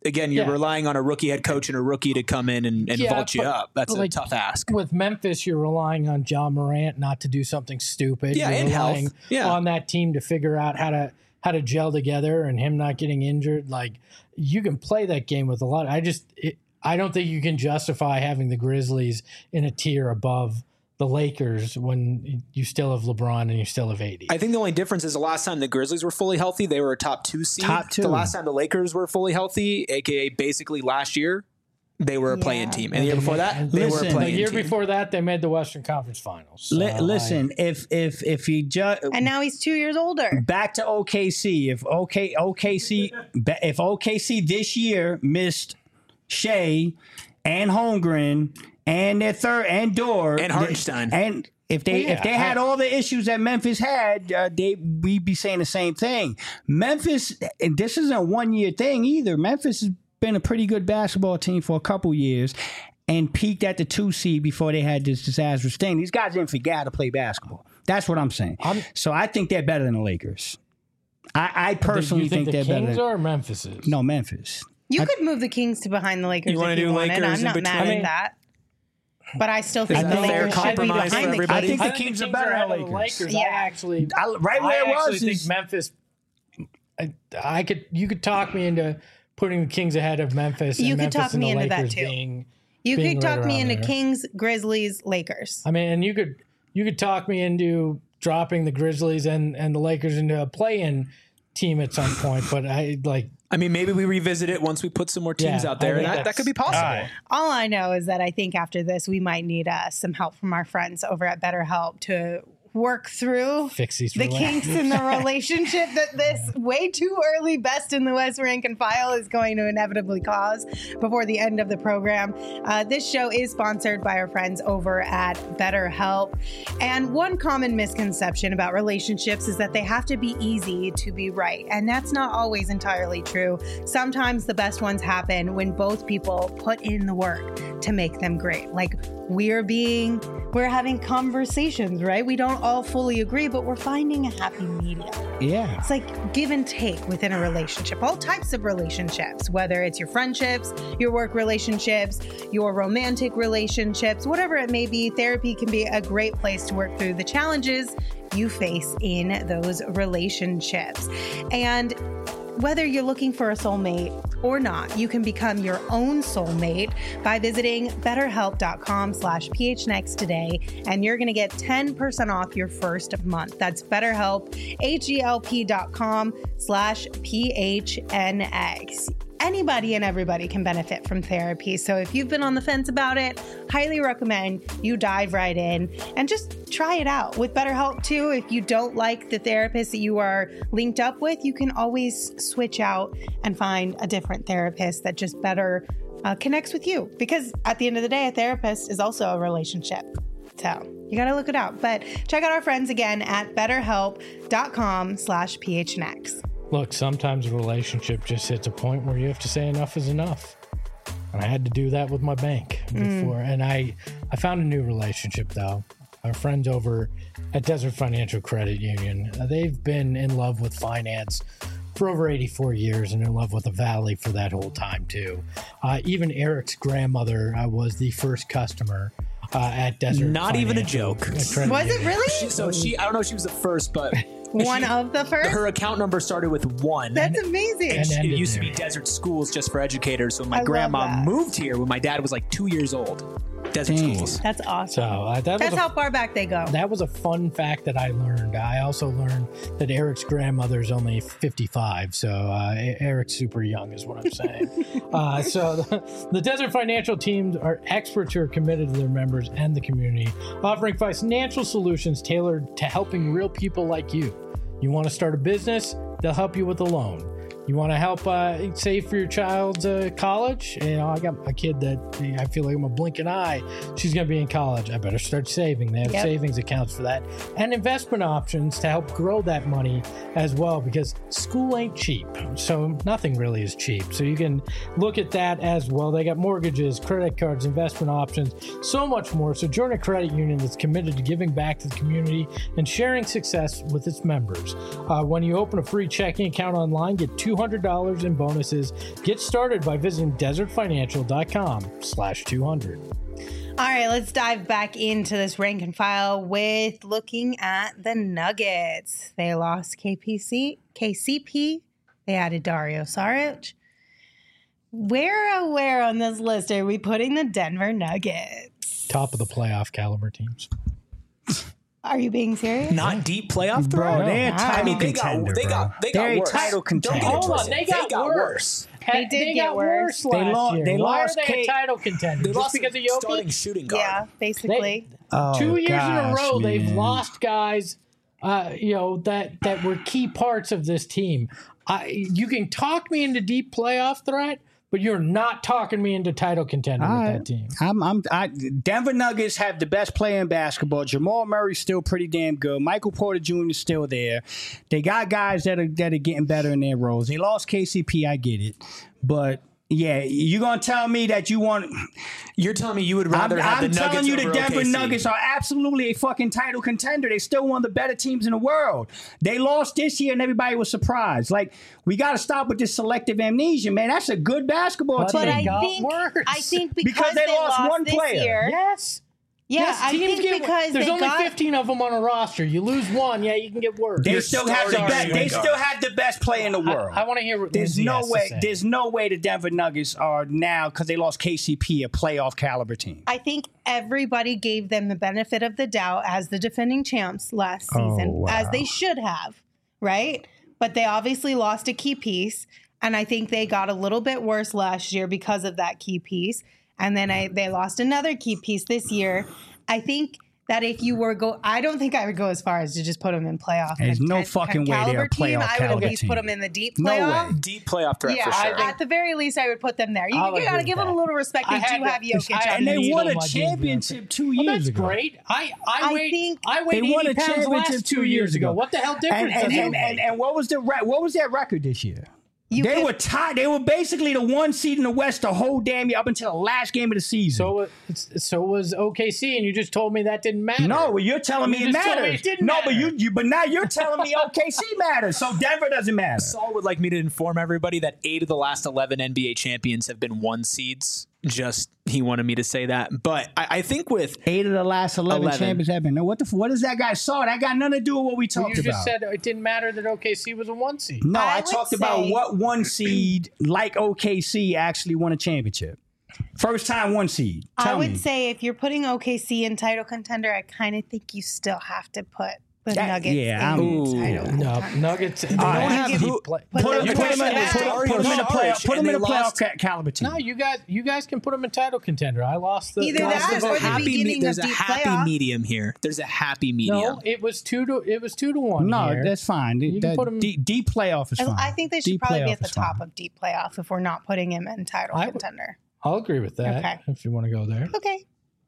again, you're Yeah. relying on a rookie head coach and a rookie to come in and, and Yeah, vault you but- up. That's but a like, tough ask. With Memphis, you're relying on John Morant not to do something stupid. Yeah, you're and health. relying Yeah. on that team to figure out how to how to gel together and him not getting injured. Like, you can play that game with a lot. I just it, I don't think you can justify having the Grizzlies in a tier above the Lakers when you still have LeBron and you still have A D. I think the only difference is the last time the Grizzlies were fully healthy, they were a top two seed. Top two. The last time the Lakers were fully healthy, aka basically last year, they were a Yeah. play-in team. And the year before that, they were Listen, a the play-in year team. before that, they made the Western Conference Finals. So Li- I- listen, if if if you just And now he's two years older. back to O K C, if OK OKC ba- if O K C this year missed Shea and Holmgren and their third and Dort And Hartenstein. and if they Well, yeah, if they had I- all the issues that Memphis had, uh, they we'd be saying the same thing. Memphis, and this isn't a one year thing either. Memphis has been a pretty good basketball team for a couple years, and peaked at the two seed before they had this disastrous thing. These guys didn't forget how to play basketball. That's what I'm saying. I'm- so I think they're better than the Lakers. I, I Do personally you think, think, the they're Kings better. are or Memphis is? No, Memphis. You could move the Kings to behind the Lakers You wanna if you do wanted. Lakers I'm in not between? mad I mean- at that. But I still think Is the that a fair Lakers should be compromise for behind the everybody? I think I the think Kings the are better ahead than of the the Lakers. Lakers. Yeah. I actually, I, right where I it actually was think is Memphis. I, I could, you could talk me into putting the Kings ahead of Memphis. You and could Memphis talk and me the into that Lakers too. Being, You being could talk right me around into there. Kings, Grizzlies, Lakers. I mean, and you could, you could talk me into dropping the Grizzlies and and the Lakers into a play-in team at some point. But I like. I mean, maybe we revisit it once we put some more teams Yeah, out there, I and think that, that that's- could be possible. all right. All I know is that I think after this, we might need uh, some help from our friends over at BetterHelp to work through Fix these the kinks in the relationship that this way too early best in the West rank and file is going to inevitably cause before the end of the program. Uh, this show is sponsored by our friends over at BetterHelp. And one common misconception about relationships is that they have to be easy to be right. And that's not always entirely true. Sometimes the best ones happen when both people put in the work to make them great. Like we're being, we're having conversations, right? We don't all fully agree, but we're finding a happy medium. yeah. It's like give and take within a relationship, all types of relationships, whether it's your friendships, your work relationships, your romantic relationships, whatever it may be. Therapy can be a great place to work through the challenges you face in those relationships. And whether you're looking for a soulmate or not, you can become your own soulmate by visiting betterhelp.com slash phnx today, and you're going to get ten percent off your first month. That's betterhelp, H-E-L-P dot com slash P-H-N-X. Anybody and everybody can benefit from therapy. So if you've been on the fence about it, highly recommend you dive right in and just try it out. With BetterHelp too, if you don't like the therapist that you are linked up with, you can always switch out and find a different therapist that just better uh, connects with you. Because at the end of the day, a therapist is also a relationship. So you got to look it out. But check out our friends again at betterhelp.com slash PHNX. Look, sometimes a relationship just hits a point where you have to say enough is enough. And I had to do that with my bank before. And I, I found a new relationship, though. Our friends over at Desert Financial Credit Union, uh, they've been in love with finance for over eighty-four years and in love with the Valley for that whole time, too. Uh, even Eric's grandmother uh, was the first customer uh, at Desert Not even a Financial joke. Credit Was it Union. really? So she, I don't know if she was the first, but One of the first? her account number started with one. That's amazing. And And it ended used to there. be Desert Schools just for educators. So my I love grandma that. moved here when my dad was like two years old. Desert Dang. Schools. That's So awesome. uh, that That's was a how far back they go. That was a fun fact that I learned. I also learned that Eric's grandmother is only fifty-five, so uh, E- Eric's super young, is what I'm saying. uh, so the, the Desert Financial teams are experts who are committed to their members and the community, offering financial solutions tailored to helping real people like you. You want to start a business? They'll help you with a loan. You want to help uh, save for your child's uh, college? You know, I got a kid that I feel like I'm a blinking eye. She's going to be in college. I better start saving. They have Yep. savings accounts for that and investment options to help grow that money as well, because school ain't cheap. So nothing really is cheap. So you can look at that as well. They got mortgages, credit cards, investment options, so much more. So join a credit union that's committed to giving back to the community and sharing success with its members. Uh, when you open a free checking account online, get two two hundred dollars in bonuses. Get started by visiting desertfinancial.com slash 200. All right, let's dive back into this rank and file with looking at the Nuggets. They lost K P C, K C P. They added Dario Saric. Where, oh, where on this list are we putting the Denver Nuggets? Top of the playoff caliber teams. Are you being serious? Not deep playoff Bro, threat. they're a Wow. title I mean, they contender, got they bro. got they got They're a worse. title Don't get contender. it Hold on, twisted. they got worse. They did they get got worse. worse They last lo- year. they Why lost are they K- a title contender? They Just lost because of a starting Jokic? shooting guard. Yeah, basically. Oh, Two years in a gosh, row, they've man. lost guys, uh, you know, that that were key parts of this team. I, you can talk me into deep playoff threat, but you're not talking me into title contender All with right. that team. I'm, I'm, I, Denver Nuggets have the best player in basketball. Jamal Murray's still pretty damn good. Michael Porter Junior is still there. They got guys that are that are getting better in their roles. They lost K C P, I get it, but yeah, you're gonna tell me that you want. You're telling me you would I'm, rather have I'm the Nuggets telling you, the over Denver O K C. Nuggets are absolutely a fucking title contender. They still one of the better teams in the world. They lost this year, and everybody was surprised. Like, we got to stop with this selective amnesia, man. That's a good basketball But team. But they I got think worse. I think because, Because they lost one this player. year. Yes. Yeah, Yes, I teams think get- because there's they only got fifteen of them on a roster. You lose one, yeah, you can get worse. They You're still have the starting best. They shooting guard. still have the best player in the world. I, I want to hear what There's Lindsay no has way. to say. There's no way the Denver Nuggets are now, because they lost K C P, a playoff caliber team. I think everybody gave them the benefit of the doubt as the defending champs last Oh, season, wow. as they should have, right? But they obviously lost a key piece, and I think they got a little bit worse last year because of that key piece. And then I, they lost another key piece this year. I think that if you were go, I don't think I would go as far as to just put them in playoff. There's no content- fucking way they're a caliber team. playoff I would caliber at least team. put them in the deep No playoff. way. Deep playoff threat Yeah, for sure. at the very least, I would put them there. You, I'll you got to agree give with them a that. little respect. I They had do to- have Jokic. I on had And to their they needle won a my jeans championship two Well, years that's ago. great. I, I, I weighed, think- I weighed They won eighty a pounds championship last two two years years ago. ago. What the hell And difference and, does it and, make? and and what was the re- what was their record this year? You They could- were tied. They were basically the one seed in the West the whole damn year up until the last game of the season. So, uh, so was O K C, and you just told me that didn't matter. No, well, you're telling me You it just told me matters. it didn't no, matter. but you, you, but now you're telling me O K C matters. So Denver doesn't matter. Saul would like me to inform everybody that eight of the last eleven N B A champions have been one seeds. Just he wanted me to say that, but I, I think with Eight of the last eleven, eleven. champions have been. Now, what the? What does that guy saw? That got nothing to do with what we Well, talked you just about. said it didn't matter that O K C was a one seed. no, I I, would talked about say- what one seed like O K C actually won a championship. First time one seed. I Tell would me. say if you're putting O K C in title contender, I kind of think you still have to put the That- Nuggets yeah, in I'm- title No, contender. Nuggets. They right. don't have Give- deep play. put Put them him, in put him in, back. put him, put him in the Dario playoff. Saric, Put him and in the they playoff lost- ca- caliber team. No, you guys, you guys can put them in title contender. I lost the Either lost that the or vote. the happy beginning there's of a deep happy playoff. medium here. There's a happy medium. No, it was two to it was two to one. No, here. that's fine. You can That- put him- deep, deep playoff is And fine. I think they should Deep probably be playoff at the is fine. top of deep playoff if we're not putting him in title I would- contender. I'll agree with that. Okay. If you want to go there. Okay.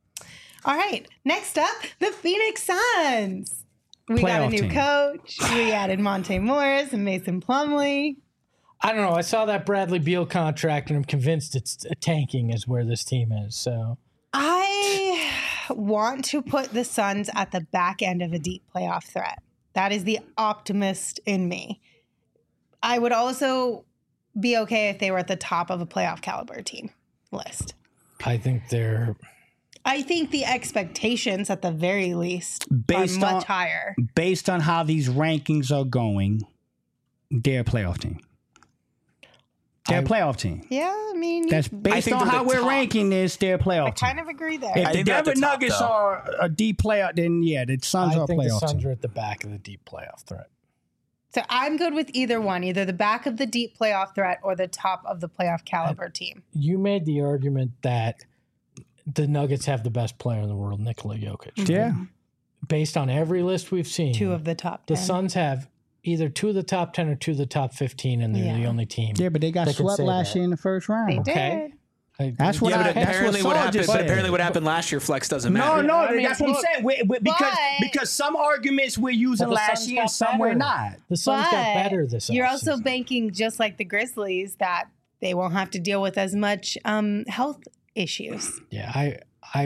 All right. Next up, the Phoenix Suns. We got a Playoff new team. coach. We added Monte Morris and Mason Plumlee. I don't know. I saw that Bradley Beal contract, and I'm convinced it's tanking is where this team is. So I want to put the Suns at the back end of a deep playoff threat. That is the optimist in me. I would also be okay if they were at the top of a playoff caliber team list. I think they're. I think the expectations at the very least Based are much on- higher. Based on how these rankings are going, they're a playoff team. They're a I- playoff team. Yeah, I mean, That's based think on they're how the we're top. ranking this. They're a playoff I team. kind of agree there. If I the think they're at Denver the top, Nuggets though. are a deep playoff, then yeah, the Suns I are a think the playoff Suns team. are at the back of the deep playoff threat. So I'm good with either one, either the back of the deep playoff threat or the top of the playoff caliber team. You made the argument that the Nuggets have the best player in the world, Nikola Jokic. Yeah. Based on every list we've seen, Two of the top the ten. Suns have either two of the top ten or two of the top fifteen, and they're Yeah. the only team. Yeah, but they got That could swept say last that. year in the first round. They Okay. did. I- That's what yeah, I- but that's apparently what what Saul happened. just But said. apparently what happened last year, Flex doesn't No, matter. no, I mean, that's what I'm look, saying. We, we, because but- because some arguments we're using But the last Suns year, got some we're better. not. The Suns But got better this You're also offseason. banking, just like the Grizzlies, that they won't have to deal with as much um, health issues. Yeah, I I would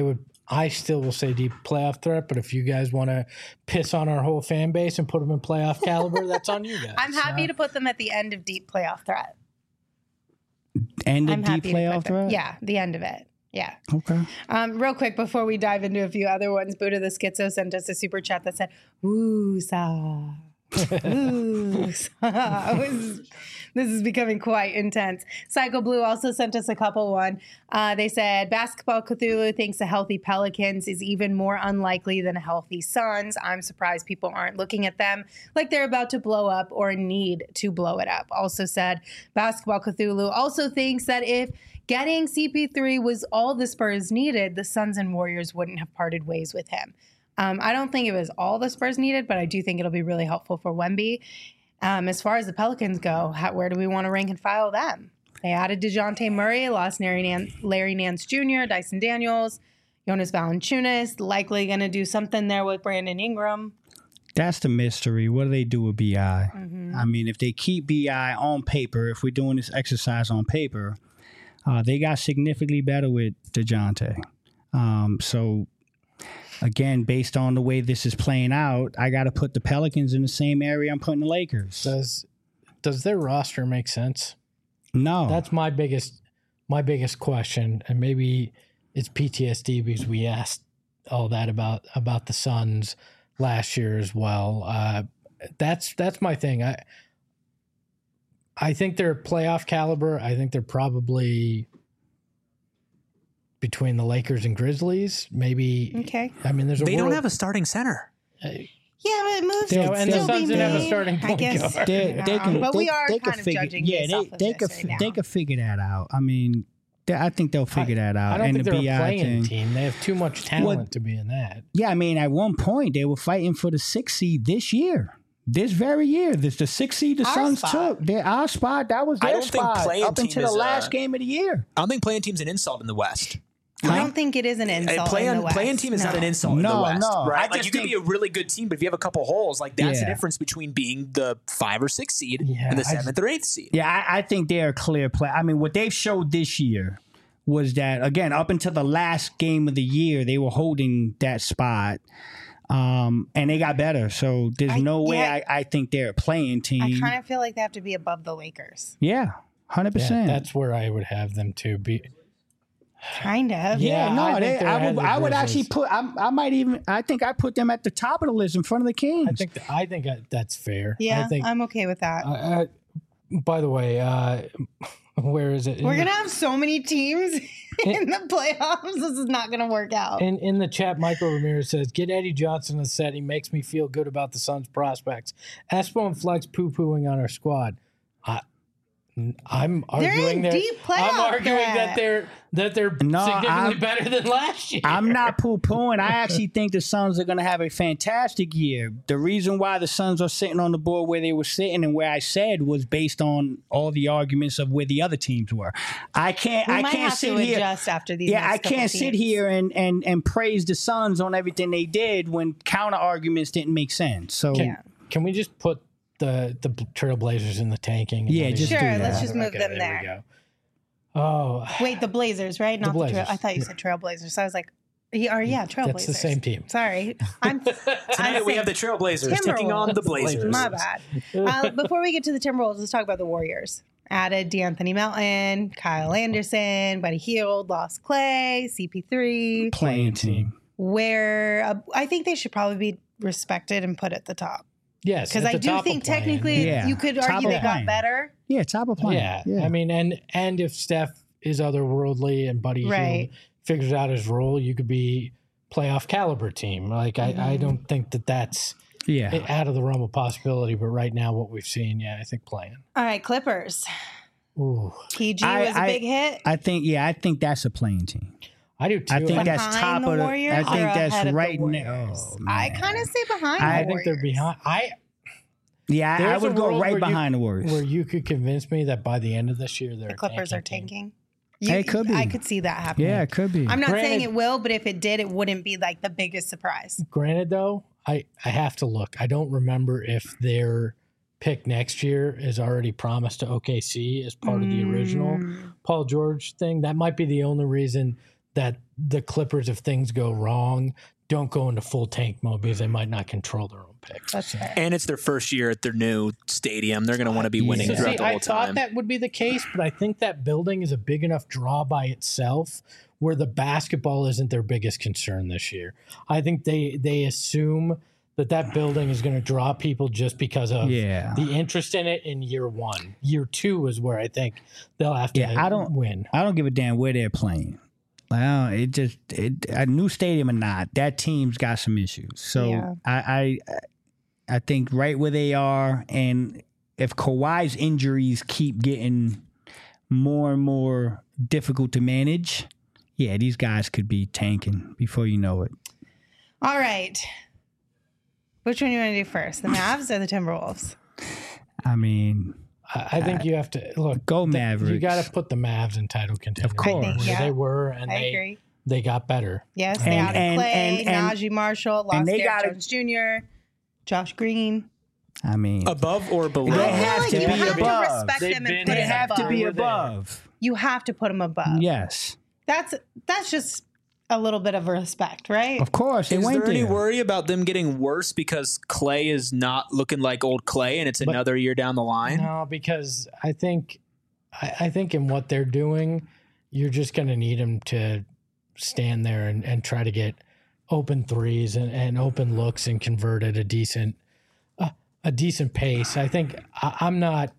I still will say deep playoff threat, but if you guys want to piss on our whole fan base and put them in playoff caliber, that's on you guys. I'm happy Uh, to put them at the end of deep playoff threat. And the I'm deep happy to put playoff them- threat? Yeah, the end of it. Yeah. Okay. Um, real quick before we dive into a few other ones, Buddha the Schizo sent us a super chat that said, "Woo sa, woo sa." This is- This is becoming quite intense. Psycho Blue also sent us a couple one. Uh, they said, Basketball Cthulhu thinks a healthy Pelicans is even more unlikely than a healthy Suns. I'm surprised people aren't looking at them like they're about to blow up or need to blow it up. Also said, Basketball Cthulhu also thinks that if getting C P three was all the Spurs needed, the Suns and Warriors wouldn't have parted ways with him. Um, I don't think it was all the Spurs needed, but I do think it'll be really helpful for Wemby. Um, as far as the Pelicans go, how, where do we want to rank and file them? They added DeJounte Murray, lost Larry, Nan- Larry Nance Junior, Dyson Daniels, Jonas Valanciunas, likely going to do something there with Brandon Ingram. That's the mystery. What do they do with B I? Mm-hmm. I mean, if they keep B I on paper, if we're doing this exercise on paper, uh, they got significantly better with DeJounte. Um, so, again, based on the way this is playing out, I got to put the Pelicans in the same area I'm putting the Lakers. Does does their roster make sense? No. That's my biggest my biggest question, and maybe it's P T S D because we asked all that about about the Suns last year as well. Uh, that's that's my thing. I I think they're playoff caliber. I think they're probably between the Lakers and Grizzlies. Maybe. Okay. I mean, there's a They don't world- have a starting center. uh, Yeah, but moves They'll- can and the still Suns be didn't have a made. starting I point guess. guard. They, they can, but they, we are they kind can of figure, judging yeah, based they, off of they this could, right now. they could figure that out. I mean, they, I think they'll figure that out. I don't and think the they're B a I playing thing. team. They have too much talent to be in that. Yeah, I mean, at one point they were fighting for the sixth seed this year. This very year, this the sixth seed the Our Suns spot. took. Their our spot, that was I their don't think spot playing up team until the is, uh, last game of the year. I don't think playing team's an insult in the West. I don't think it is an insult. And playing, in the West. playing team is No. not an insult in No, the West, no. right? I Like just you could think- be a really good team, but if you have a couple holes, like that's the Yeah. difference between being the five or six seed Yeah, and the I seventh or eighth seed. Yeah, I, I think they're a clear play. I mean, what they've showed this year was that again, up until the last game of the year, they were holding that spot. Um, and they got better. So there's I- no way yeah. I, I think they're a playing team. I kind of feel like they have to be above the Lakers. yeah, one hundred Yeah, percent. that's where I would have them to be. Kind of. Yeah, Yeah, no, I think they, they're I ahead would, of the I would actually Grizzlies. put. I, I might even. I think I put them at the top of the list in front of the Kings. I think I think that's fair. Yeah, I think. I'm okay with that. Uh, uh, by the way, uh, where is it? We're in, gonna have so many teams in the playoffs. This is not gonna work out. in in the chat. Michael Ramirez says, "Get Eddie Johnson on the set. He makes me feel good about the Suns' prospects." Espo and Flex poo pooing on our squad. I, I'm They're arguing in that deep I'm playoff arguing threat. that they're that they're No, significantly I'm- better than last year. I'm not poo pooing. I actually think the Suns are going to have a fantastic year. The reason why the Suns are sitting on the board where they were sitting and where I said was based on all the arguments of where the other teams were. I can't. we I might can't have sit to here. adjust after these. Yeah, next I couple can't sit teams. here and, and, and praise the Suns on everything they did when counter arguments didn't make sense. So Yeah. Can we just put the the Trailblazers in the tanking? and Yeah, not just even- do Sure, let's just move Okay, them we there. go. Oh, Wait, the Blazers, right? Not the, Trail. Blazers, I thought you yeah. said Trailblazers. So I was like, yeah, or yeah, Trailblazers. that's the same team. Sorry, I'm. Tonight I'm we have the saying Trailblazers taking on the Blazers. My bad. Uh, before we get to the Timberwolves, let's talk about the Warriors. Added D'Anthony Melton, Kyle Anderson, Buddy Hield, lost Clay, C P three. playing team. Where uh, I think they should probably be respected and put at the top. Yes, Because at I the do top of think playing. technically Yeah. you could Top argue of they got playing. better. Yeah, top of playing. Yeah, I mean, and and if Steph is otherworldly and Buddy Right. Hield figures out his role, you could be playoff caliber team. Like I, Mm-hmm. I don't think that that's yeah. out of the realm of possibility. But right now, what we've seen, yeah, I think playing. All right, Clippers. Ooh, P G I- was a I- big hit. I think. Yeah, I think that's a playing team. I do too. I think Behind that's top the of the. Warriors I or think ahead that's of the right Warriors? now. Oh, I man. kind of say behind. I the I think they're Warriors. behind. I Yeah, I, I There's a would go world right where you- behind the Warriors. where you could convince me that by the end of this year, they're The Clippers a are tanking team. tanking. You, Hey, it could be. I could see that happening. yeah, it could be. I'm not saying Granted- it will, but if it did, it wouldn't be like the biggest surprise. Granted, though, I, I have to look. I don't remember if their pick next year is already promised to O K C as part of the original Mm. Paul George thing. That might be the only reason that the Clippers, if things go wrong, don't go into full tank mode because they might not control their own picks. That's fair. And it's their first year at their new stadium. They're going to want to be winning So throughout see, the whole I thought time. that would be the case, but I think that building is a big enough draw by itself where the basketball isn't their biggest concern this year. I think they they assume that that building is going to draw people just because of Yeah. the interest in it in year one. Year two is where I think they'll have to Yeah, I don't- win. I don't give a damn where they're playing. Well, it just it, a new stadium or not, that team's got some issues. So Yeah. I, I I think right where they are, and if Kawhi's injuries keep getting more and more difficult to manage, yeah, these guys could be tanking before you know it. All right. Which one you want to do first, the Mavs or the Timberwolves? I mean, I, I think you have to look. go th- Mavericks. You got to put the Mavs in title contention. Of course. I think, where yeah. they were, and I they agree. they got better. Yes, they And- added and- Clay, and- and- Najee Marshall, lost and they Derrick gotta- Jones Junior, Josh Green. I mean, Above or below? They I have feel like to you be have above. to respect They've them been and put there. they them have to above. be We're there. above. You have to put them above. Yes, That's that's just a little bit of respect, right? of course. They Is went there any there. worry about them getting worse because Clay is not looking like old Clay and it's But- another year down the line? No, because I think I, I think in what they're doing, you're just going to need them to stand there and, and try to get open threes and, and open looks and convert at a decent uh, a decent pace. I think I, I'm not.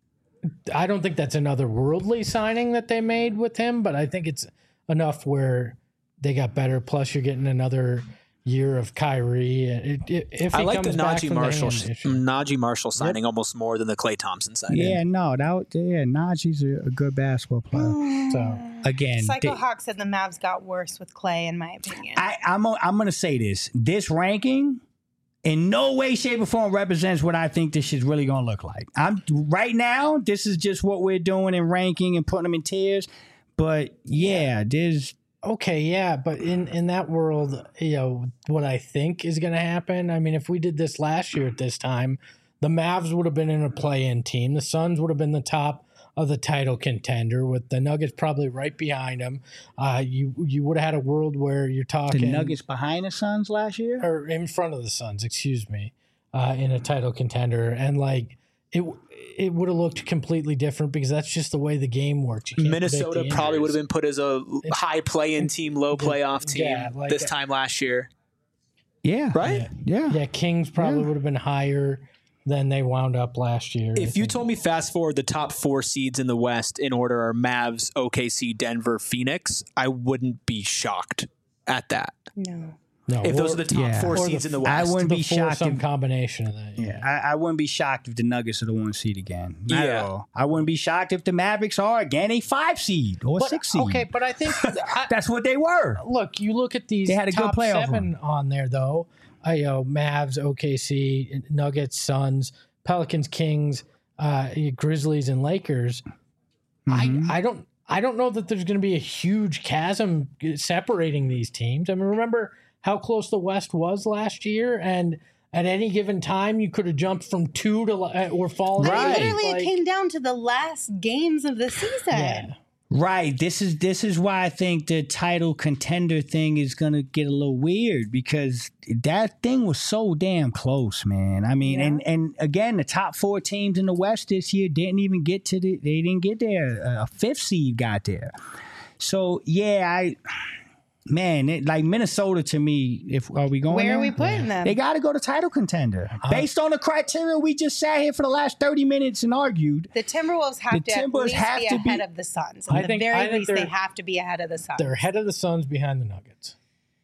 I don't think that's another worldly signing that they made with him, but I think it's enough where they got better. Plus, you're getting another year of Kyrie. It, it, if I he like the comes back Najee from Marshall hand issue. Najee Marshall signing almost more than the Klay Thompson signing. Yeah, no, that yeah, Najee's a, a good basketball player. So Again, Psycho they- Hawk said the Mavs got worse with Clay, in my opinion. I, I'm i I'm going to say this: this ranking, in no way, shape, or form represents what I think this shit's really going to look like. I'm right now. This is just what we're doing in ranking and putting them in tiers. But yeah, there's okay, yeah, but in in that world, you know, what I think is going to happen. I mean, if we did this last year at this time, the Mavs would have been in a play-in team. The Suns would have been the top of the title contender, with the Nuggets probably right behind them. Uh, you you would have had a world where you're the talking Nuggets behind the Suns last year. or in front of the Suns, excuse me, uh, in a title contender, and like it it would have looked completely different because that's just the way the game works. You can't predict Minnesota the probably would have injuries. been put as a high play-in team, low playoff team yeah, like- this time last year, Yeah, right? yeah. Yeah, Kings probably Yeah. would have been higher than they wound up last year. I If you think. told me fast forward the top four seeds in the West in order are Mavs, O K C, Denver, Phoenix, I wouldn't be shocked at that. no. no, If those or- are the top Yeah. four Or the seeds in the f- West. I wouldn't the be four, shocked some if- combination of that. Yeah, I, I wouldn't be shocked if the Nuggets are the one seed again. Not Yeah. at all. I wouldn't be shocked if the Mavericks are again a five seed or But, six seed. okay, but I think I, That's what they were. look, you look at these They had a good top playoff seven on there though. I you know Mavs, O K C, Nuggets, Suns, Pelicans, Kings, uh, Grizzlies, and Lakers. Mhm. I I don't I don't know that there's going to be a huge chasm separating these teams. I mean, remember how close the West was last year, and at any given time you could have jumped from two to uh, or fallen. I mean, Right. literally, Like, it came down to the last games of the season. yeah. Right. This is this is why I think the title contender thing is gonna get a little weird because that thing was so damn close, man. I mean, and and again, the top four teams in the West this year didn't even get to the. They didn't get there. A fifth seed got there. So yeah, I. Man, it, like Minnesota to me, if are we going Where there? are we putting them? They got to go to title contender based on the criteria we just sat here for the last thirty minutes and argued. The Timberwolves have The to Timbers at least have be to be- ahead of the Suns. At I the think- very I think least, they they're- have to be ahead of the Suns. They're ahead of the Suns, behind the Nuggets.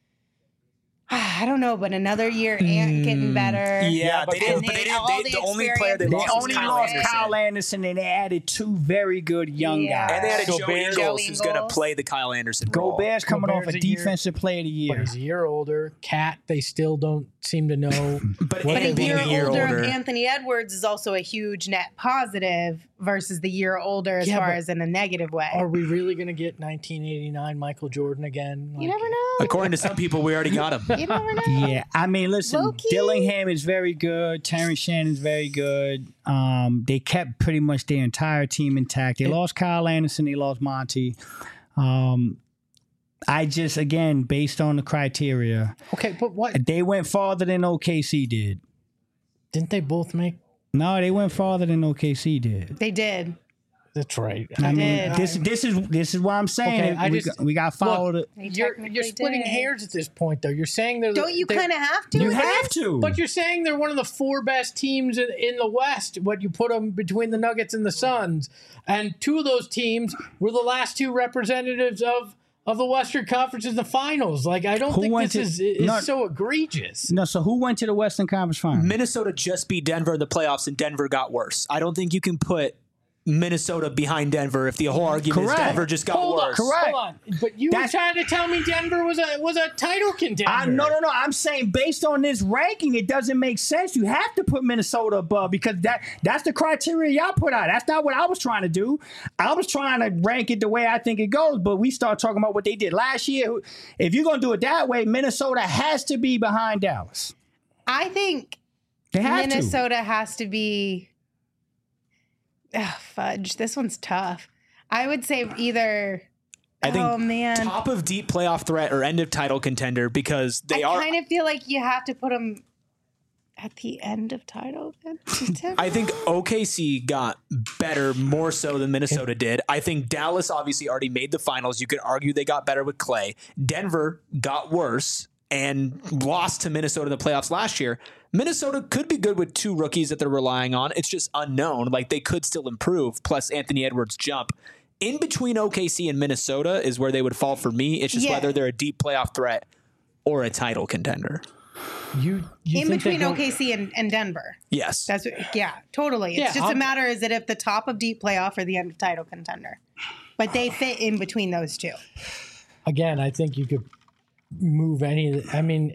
I don't know, but another year, Ant getting better. Yeah, but they didn't. and But they then all didn't. They, the the only player they experience- They lost was only Kyle lost Anderson. Kyle Anderson and they added two very good young Yeah. guys. And they had a So Joe Bears- Ingles Joe who's going to Ingles. play the Kyle Anderson role. Gobert's coming off a Gobert's a year- defensive player of the But year. he's a year older. Cat, they still don't seem to know. But What But a they being year, want. a year older, older. of Anthony Edwards is also a huge net positive versus the year older as Yeah, far but as in a negative way. Are we really going to get nineteen eighty-nine Michael Jordan again? you Like, never know. According to some people, we already got him. You never know. Yeah, I mean, listen, Low-key. Dillingham is very good. Terrence Shannon's very good. Um, they kept pretty much their entire team intact. They lost Kyle Anderson. They lost Monty. Um, I just, again, based on the criteria, Okay, but what? they went farther than O K C did. Didn't they both make? No, they went farther than O K C did. They did. That's right. I mean, did. this this is this is what I'm saying. Okay, I we, just- got, we got to follow Look, the. They You're, technically you're splitting did. hairs at this point, though. You're saying they're. Don't you they're- kind of have to? You with have this? to. But you're saying they're one of the four best teams in, in the West. What you put them between the Nuggets and the Suns, and two of those teams were the last two representatives of of the Western Conference in the finals. Like, I don't Who think went this to- is is no- so egregious. No, so who went to the Western Conference Finals? Minnesota just beat Denver in the playoffs, and Denver got worse. I don't think you can put Minnesota behind Denver if the whole argument Correct. is Denver just got Hold on, worse. Correct. hold on. But you That's- were trying to tell me Denver was a was a title contender. I, no, no, no. I'm saying based on this ranking, it doesn't make sense. You have to put Minnesota above because that that's the criteria y'all put out. That's not what I was trying to do. I was trying to rank it the way I think it goes, but we start talking about what they did last year. If you're going to do it that way, Minnesota has to be behind Dallas. I think They have Minnesota has to be. Ugh, fudge. This one's tough. I would say either. I think oh man, top of deep playoff threat or end of title contender because they I are. kind of feel like you have to put them at the end of title contender. I think O K C got better more so than Minnesota did. I think Dallas obviously already made the finals. You could argue they got better with Clay. Denver got worse and lost to Minnesota in the playoffs last year. Minnesota could be good with two rookies that they're relying on. It's just unknown. Like, they could still improve, plus Anthony Edwards' jump. In between O K C and Minnesota is where they would fall for me. It's just Yeah. whether they're a deep playoff threat or a title contender. You, you in think they between go- O K C and, and Denver. Yes. That's what, yeah, totally. It's Yeah, just I'm- a matter is it at the top of deep playoff or the end of title contender. But they fit in between those two. Again, I think you could move any of the, I mean,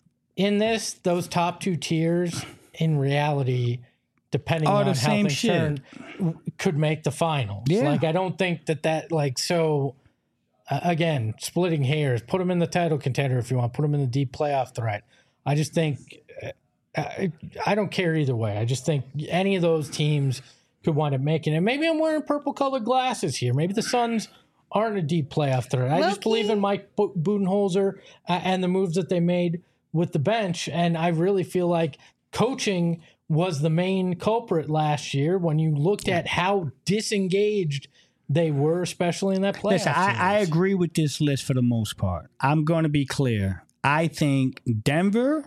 in this, those top two tiers, in reality, depending Are on the how same things shit. turn, w- could make the finals. Yeah. Like, I don't think that that, like, so, uh, again, splitting hairs, put them in the title contender if you want, put them in the deep playoff threat. I just think, uh, I, I don't care either way. I just think any of those teams could wind up making it. Maybe I'm wearing purple colored glasses here. Maybe the Suns aren't a deep playoff threat. I just Low-key. believe in Mike Bu- Budenholzer uh, and the moves that they made with the bench. And I really feel like coaching was the main culprit last year when you looked at how disengaged they were, especially in that playoff Listen, I, I series. agree with this list for the most part. I'm going to be clear. I think Denver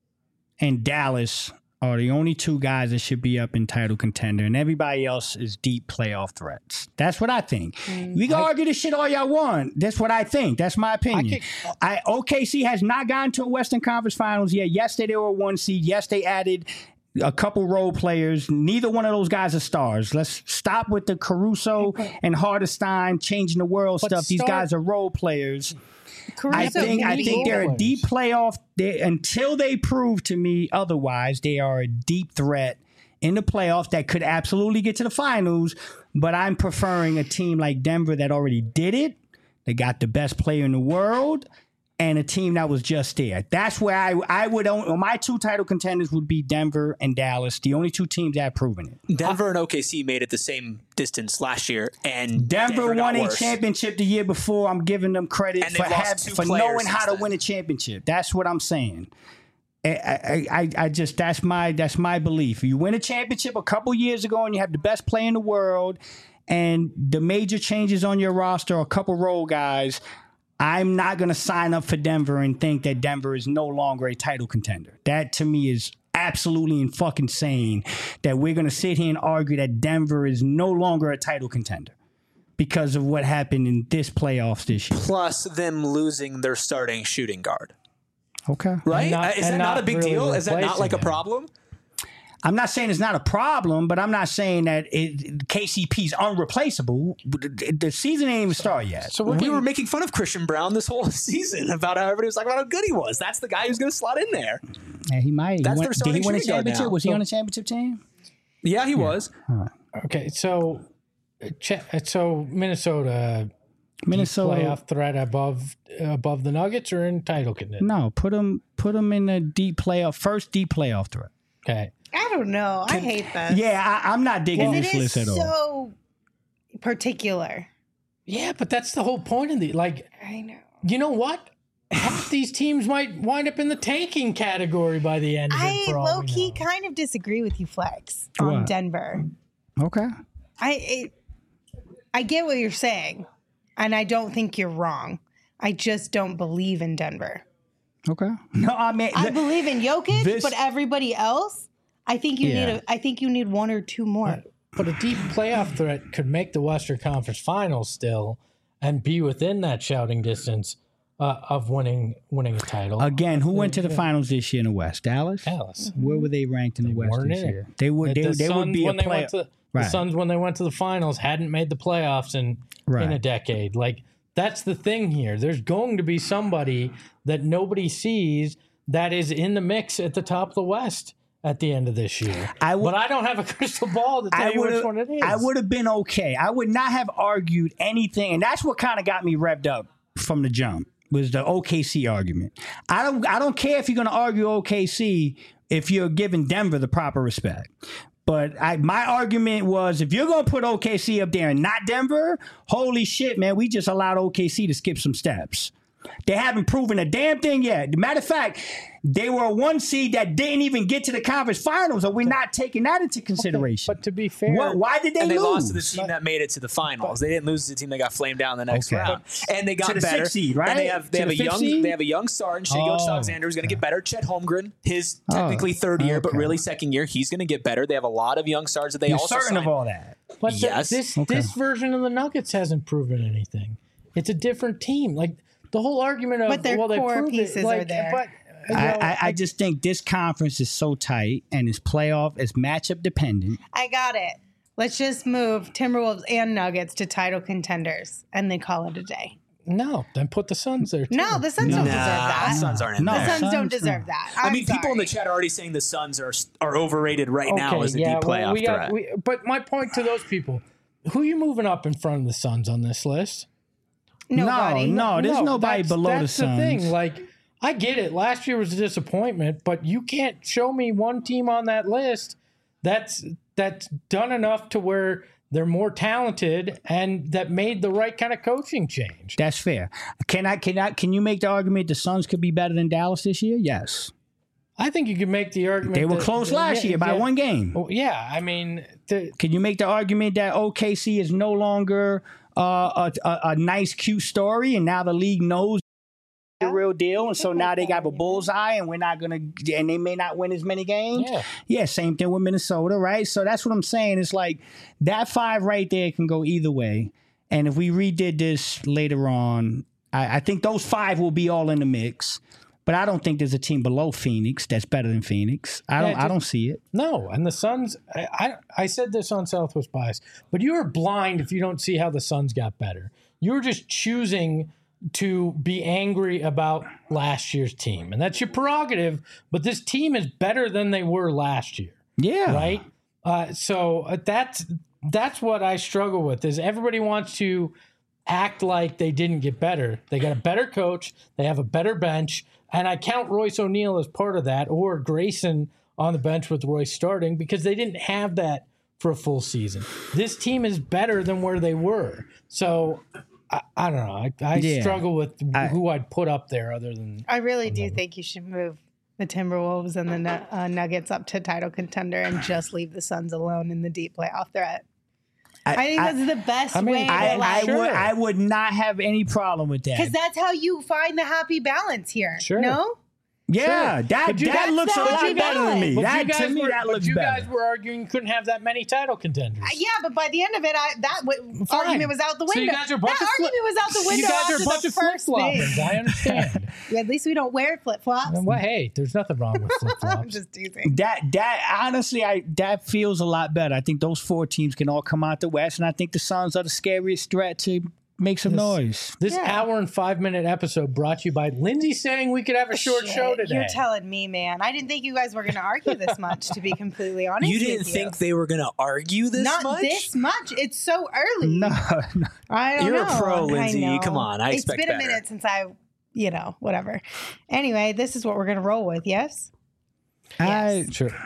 and Dallas are the only two guys that should be up in title contender, and everybody else is deep playoff threats. That's what I think. We can argue this shit all y'all want. That's what I think. That's my opinion. I, O K C has not gotten to a Western Conference Finals yet. Yes, they were a one seed. Yes, they added a couple role players. Neither one of those guys are stars. Let's stop with the Caruso and Hardestein changing the world But stuff. These star- guys are role players. I Caruso think can I be- think they're a players. deep playoff. They, until they prove to me otherwise, they are a deep threat in the playoffs that could absolutely get to the finals. But I'm preferring a team like Denver that already did it. They got the best player in the world, and a team that was just there. That's where I I would own. My two title contenders would be Denver and Dallas, the only two teams that have proven it. Denver and O K C made it the same distance last year, and Denver, got won a worse. championship the year before. I'm giving them credit And for, they've lost have, two for players knowing how since to then. win a championship. That's what I'm saying. I, I, I, I just that's my that's my belief. You win a championship a couple years ago, and you have the best player in the world, and the major changes on your roster, a couple role guys. I'm not going to sign up for Denver and think that Denver is no longer a title contender. That to me is absolutely and fucking insane that we're going to sit here and argue that Denver is no longer a title contender because of what happened in this playoffs this year. Plus them losing their starting shooting guard. Okay. Right? And not- Uh, Is that and not, not a big really deal? Is that not like a replacing him. problem? I'm not saying it's not a problem, but I'm not saying that it, K C P's unreplaceable. The, the season ain't even started yet. So we're We getting- were making fun of Christian Brown this whole season about how everybody was talking about how good he was. That's the guy who's going to slot in there. Yeah, he might. He That's went- their did he starting win a shooting guard championship? now. Was he So- on a championship team? Yeah, he was. Okay, so uh, che- so Minnesota Minnesota. playoff threat above above the Nuggets or in title contender? No, put him put him in the deep playoff, first deep playoff threat. Okay, I don't know. I hate this. Yeah, I, I'm not digging It this is list at all. so particular. yeah, but that's the whole point of the like. I know. you know what? Half these teams might wind up in the tanking category by the end of it. I for all low we key know. kind of disagree with you, Flex, on What? Denver. Okay. I it, I get what you're saying, and I don't think you're wrong. I just don't believe in Denver. Okay. No, I mean, I the- believe in Jokic, this- but everybody else, I think you Yeah. need a. I think you need one or two more. But a deep playoff threat could make the Western Conference Finals still and be within that shouting distance uh, of winning winning a title. again, who went to the finals this year in the West? Dallas. Dallas. Where were they ranked in the West weren't this in it. year? They would. They, the they would Suns, be a when they player. went to the Right. Suns when they went to the finals hadn't made the playoffs in Right. in a decade. Like that's the thing here. There's going to be somebody that nobody sees that is in the mix at the top of the West at the end of this year. I would- but I don't have a crystal ball to tell I you would which one it is. I would have been okay. I would not have argued anything, and that's what kind of got me revved up from the jump was the O K C argument. I don't I don't care if you're going to argue O K C if you're giving Denver the proper respect. But I, my argument was if you're going to put O K C up there and not Denver, holy shit, man, we just allowed O K C to skip some steps. They haven't proven a damn thing yet. Matter of fact, they were a one seed that didn't even get to the conference finals, and we're not taking that into consideration. But to be fair, What, why did they And they lose? lost to the team that made it to the finals. They didn't lose to the team that got flamed down in the next Okay. round. And they got To the better. sixth seed, right? And they have they To have the a fifth young seed? they have a young star in Shai Oh, Gilgeous-Alexander who's going to get better. Chet Holmgren, his technically third year, but okay. really second year, he's going to get better. They have a lot of young stars that they You're also certain signed. of all that. But the- Yes. this Okay. this version of the Nuggets hasn't proven anything. It's a different team. Like the whole argument of But their well, they core proved pieces it. are Like, there. But you know, I, I, I just think this conference is so tight and it's playoff, it's matchup dependent. I got it. Let's just move Timberwolves and Nuggets to title contenders, and then call it a day. no, then put the Suns there too. No, the Suns don't Nah, deserve that. the Suns aren't in No. The there. Suns Suns, don't no. deserve that. I I'm mean, people in the sorry. chat are already saying the Suns are are overrated right now as a yeah, deep well, playoff we got- threat. we- but my point to those people, who are you moving up in front of the Suns on this list? Nobody. No, no, there's nobody that's- below the that's Suns. thing. Like, I get it. Last year was a disappointment, but you can't show me one team on that list that's that's done enough to where they're more talented and that made the right kind of coaching change. That's fair. Can I can I can you make the argument the Suns could be better than Dallas this year? Yes. I think you could make the argument They were that- close that- last yeah, year by yeah. one game. Well, yeah, I mean, the, Can you make the argument that O K C is no longer uh, a, a, a nice, cute story, and now the league knows the real deal, and so now they got a bullseye, and we're not gonna, and they may not win as many games. Yeah. yeah, same thing with Minnesota, right? So that's what I'm saying. It's like that five right there can go either way, and if we redid this later on, I, I think those five will be all in the mix. But I don't think there's a team below Phoenix that's better than Phoenix. I don't. Yeah, I just- don't see it. No, and the Suns. I, I I said this on Southwest Bias, but you are blind if you don't see how the Suns got better. You're just choosing to be angry about last year's team, and that's your prerogative. But this team is better than they were last year, Yeah. right? Uh, so uh, that's that's what I struggle with. Is everybody wants to act like they didn't get better? They got a better coach. They have a better bench. And I count Royce O'Neal as part of that, or Grayson on the bench with Royce starting, because they didn't have that for a full season. This team is better than where they were. So I, I don't know. I, I Yeah. struggle with I- who I'd put up there other than. I really do think you should move the Timberwolves and the Nu- uh, Nuggets up to title contender and just leave the Suns alone in the deep playoff threat. I, think that's the best I mean, way I, to I like, would I would not have any problem with that. because that's how you find the happy balance here. Sure. No, Yeah, that But you- that that's looks a not what lot you better than me. got. But That you guys to me were, that but looks you better. guys were arguing you couldn't have that many title contenders. Uh, yeah, but by the end of it, I, that w- Fine. argument was out the window. So you guys are a bunch that of flip- argument was out the window You guys are after a bunch the of flip first floppers. thing. I understand. Yeah, at least we don't wear flip flops. Well, hey, there's nothing wrong with flip I'm flops. just teasing. That that honestly, I that feels a lot better. I think those four teams can all come out the West, and I think the Suns are the scariest threat to make some noise. This Yeah. hour and five minute episode brought to you by Lindsay saying we could have a short Shit, show today. You're telling me, man. I didn't think you guys were going to argue this much. To be completely honest, You didn't with think they were going to argue this not much? this much. It's so early. No, no. I don't You're a know. pro, I Lindsay. know. Come on, I expect It's been better. a minute since I, you know, whatever. Anyway, this is what we're going to roll with. Yes. I Sure.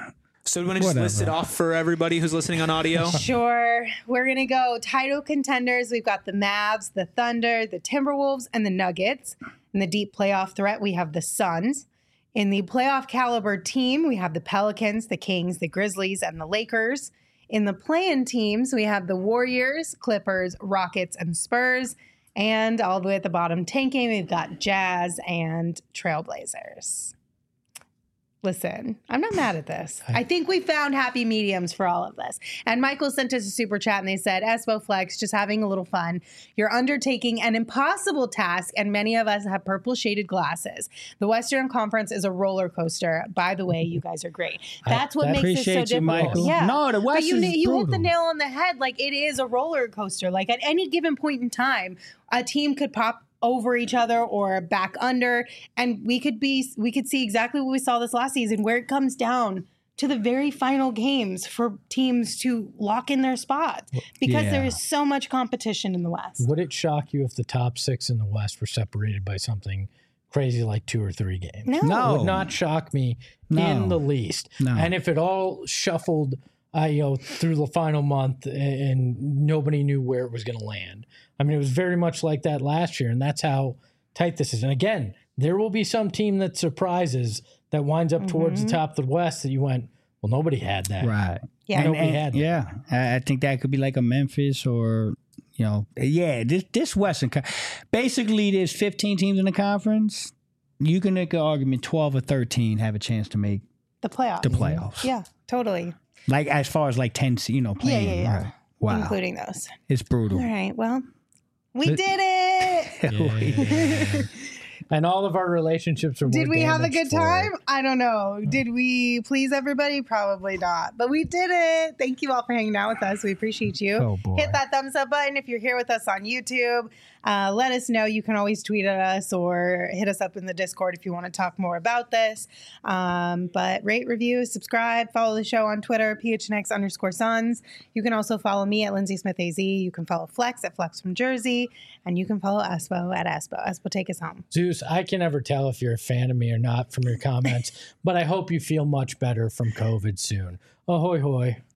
So do you want to just list it Whatever. off for everybody who's listening on audio? Sure. We're going to go title contenders. We've got the Mavs, the Thunder, the Timberwolves, and the Nuggets. In the deep playoff threat, we have the Suns. In the playoff caliber team, we have the Pelicans, the Kings, the Grizzlies, and the Lakers. In the play-in teams, we have the Warriors, Clippers, Rockets, and Spurs. And all the way at the bottom tanking, we've got Jazz and Trailblazers. Listen, I'm not mad at this. I think we found happy mediums for all of this. And Michael sent us a super chat and they said, Espo Flex, just having a little fun. You're undertaking an impossible task, and many of us have purple shaded glasses. The Western Conference is a roller coaster. By the way, you guys are great. That's what I makes it so appreciate you, difficult. Michael. Yeah. No, the West but you, is you hit the brutal. nail on the head. Like, it is a roller coaster. Like, at any given point in time, a team could pop over each other or back under, and we could be we could see exactly what we saw this last season, where it comes down to the very final games for teams to lock in their spots because Yeah. there is so much competition in the West. Would it shock you if the top six in the West were separated by something crazy like two or three games? No. No. Would not shock me No. in the least. No. And if it all shuffled, uh, you know, through the final month and nobody knew where it was going to land. I mean, it was very much like that last year, and that's how tight this is. And again, there will be some team that surprises that winds up towards the top of the West that you went, well, nobody had that. Right. Yeah. And, Nobody and- had that. yeah. I, I think that could be like a Memphis or, you know, yeah, this, this Western. Co- Basically, there's fifteen teams in the conference. You can make an argument twelve or thirteen have a chance to make The playoffs. the playoffs. Yeah, totally. Like as far as like ten, you know, playing. yeah, yeah. Right. Wow. Including those. It's brutal. All right. Well, we did it. And all of our relationships are more Did we have a damaged good for time? it. I don't know. Did we please everybody? Probably not. But we did it. Thank you all for hanging out with us. We appreciate you. Oh, boy. Hit that thumbs up button if you're here with us on YouTube. Uh, let us know. You can always tweet at us or hit us up in the Discord if you want to talk more about this. Um, but rate, review, subscribe, follow the show on Twitter, P H N X underscore Suns. You can also follow me at Lindsay Smith A Z. You can follow Flex at Flex from Jersey. And you can follow Espo at Espo. Espo, take us home. Zeus, I can never tell if you're a fan of me or not from your comments, but I hope you feel much better from COVID soon. Ahoy, hoy.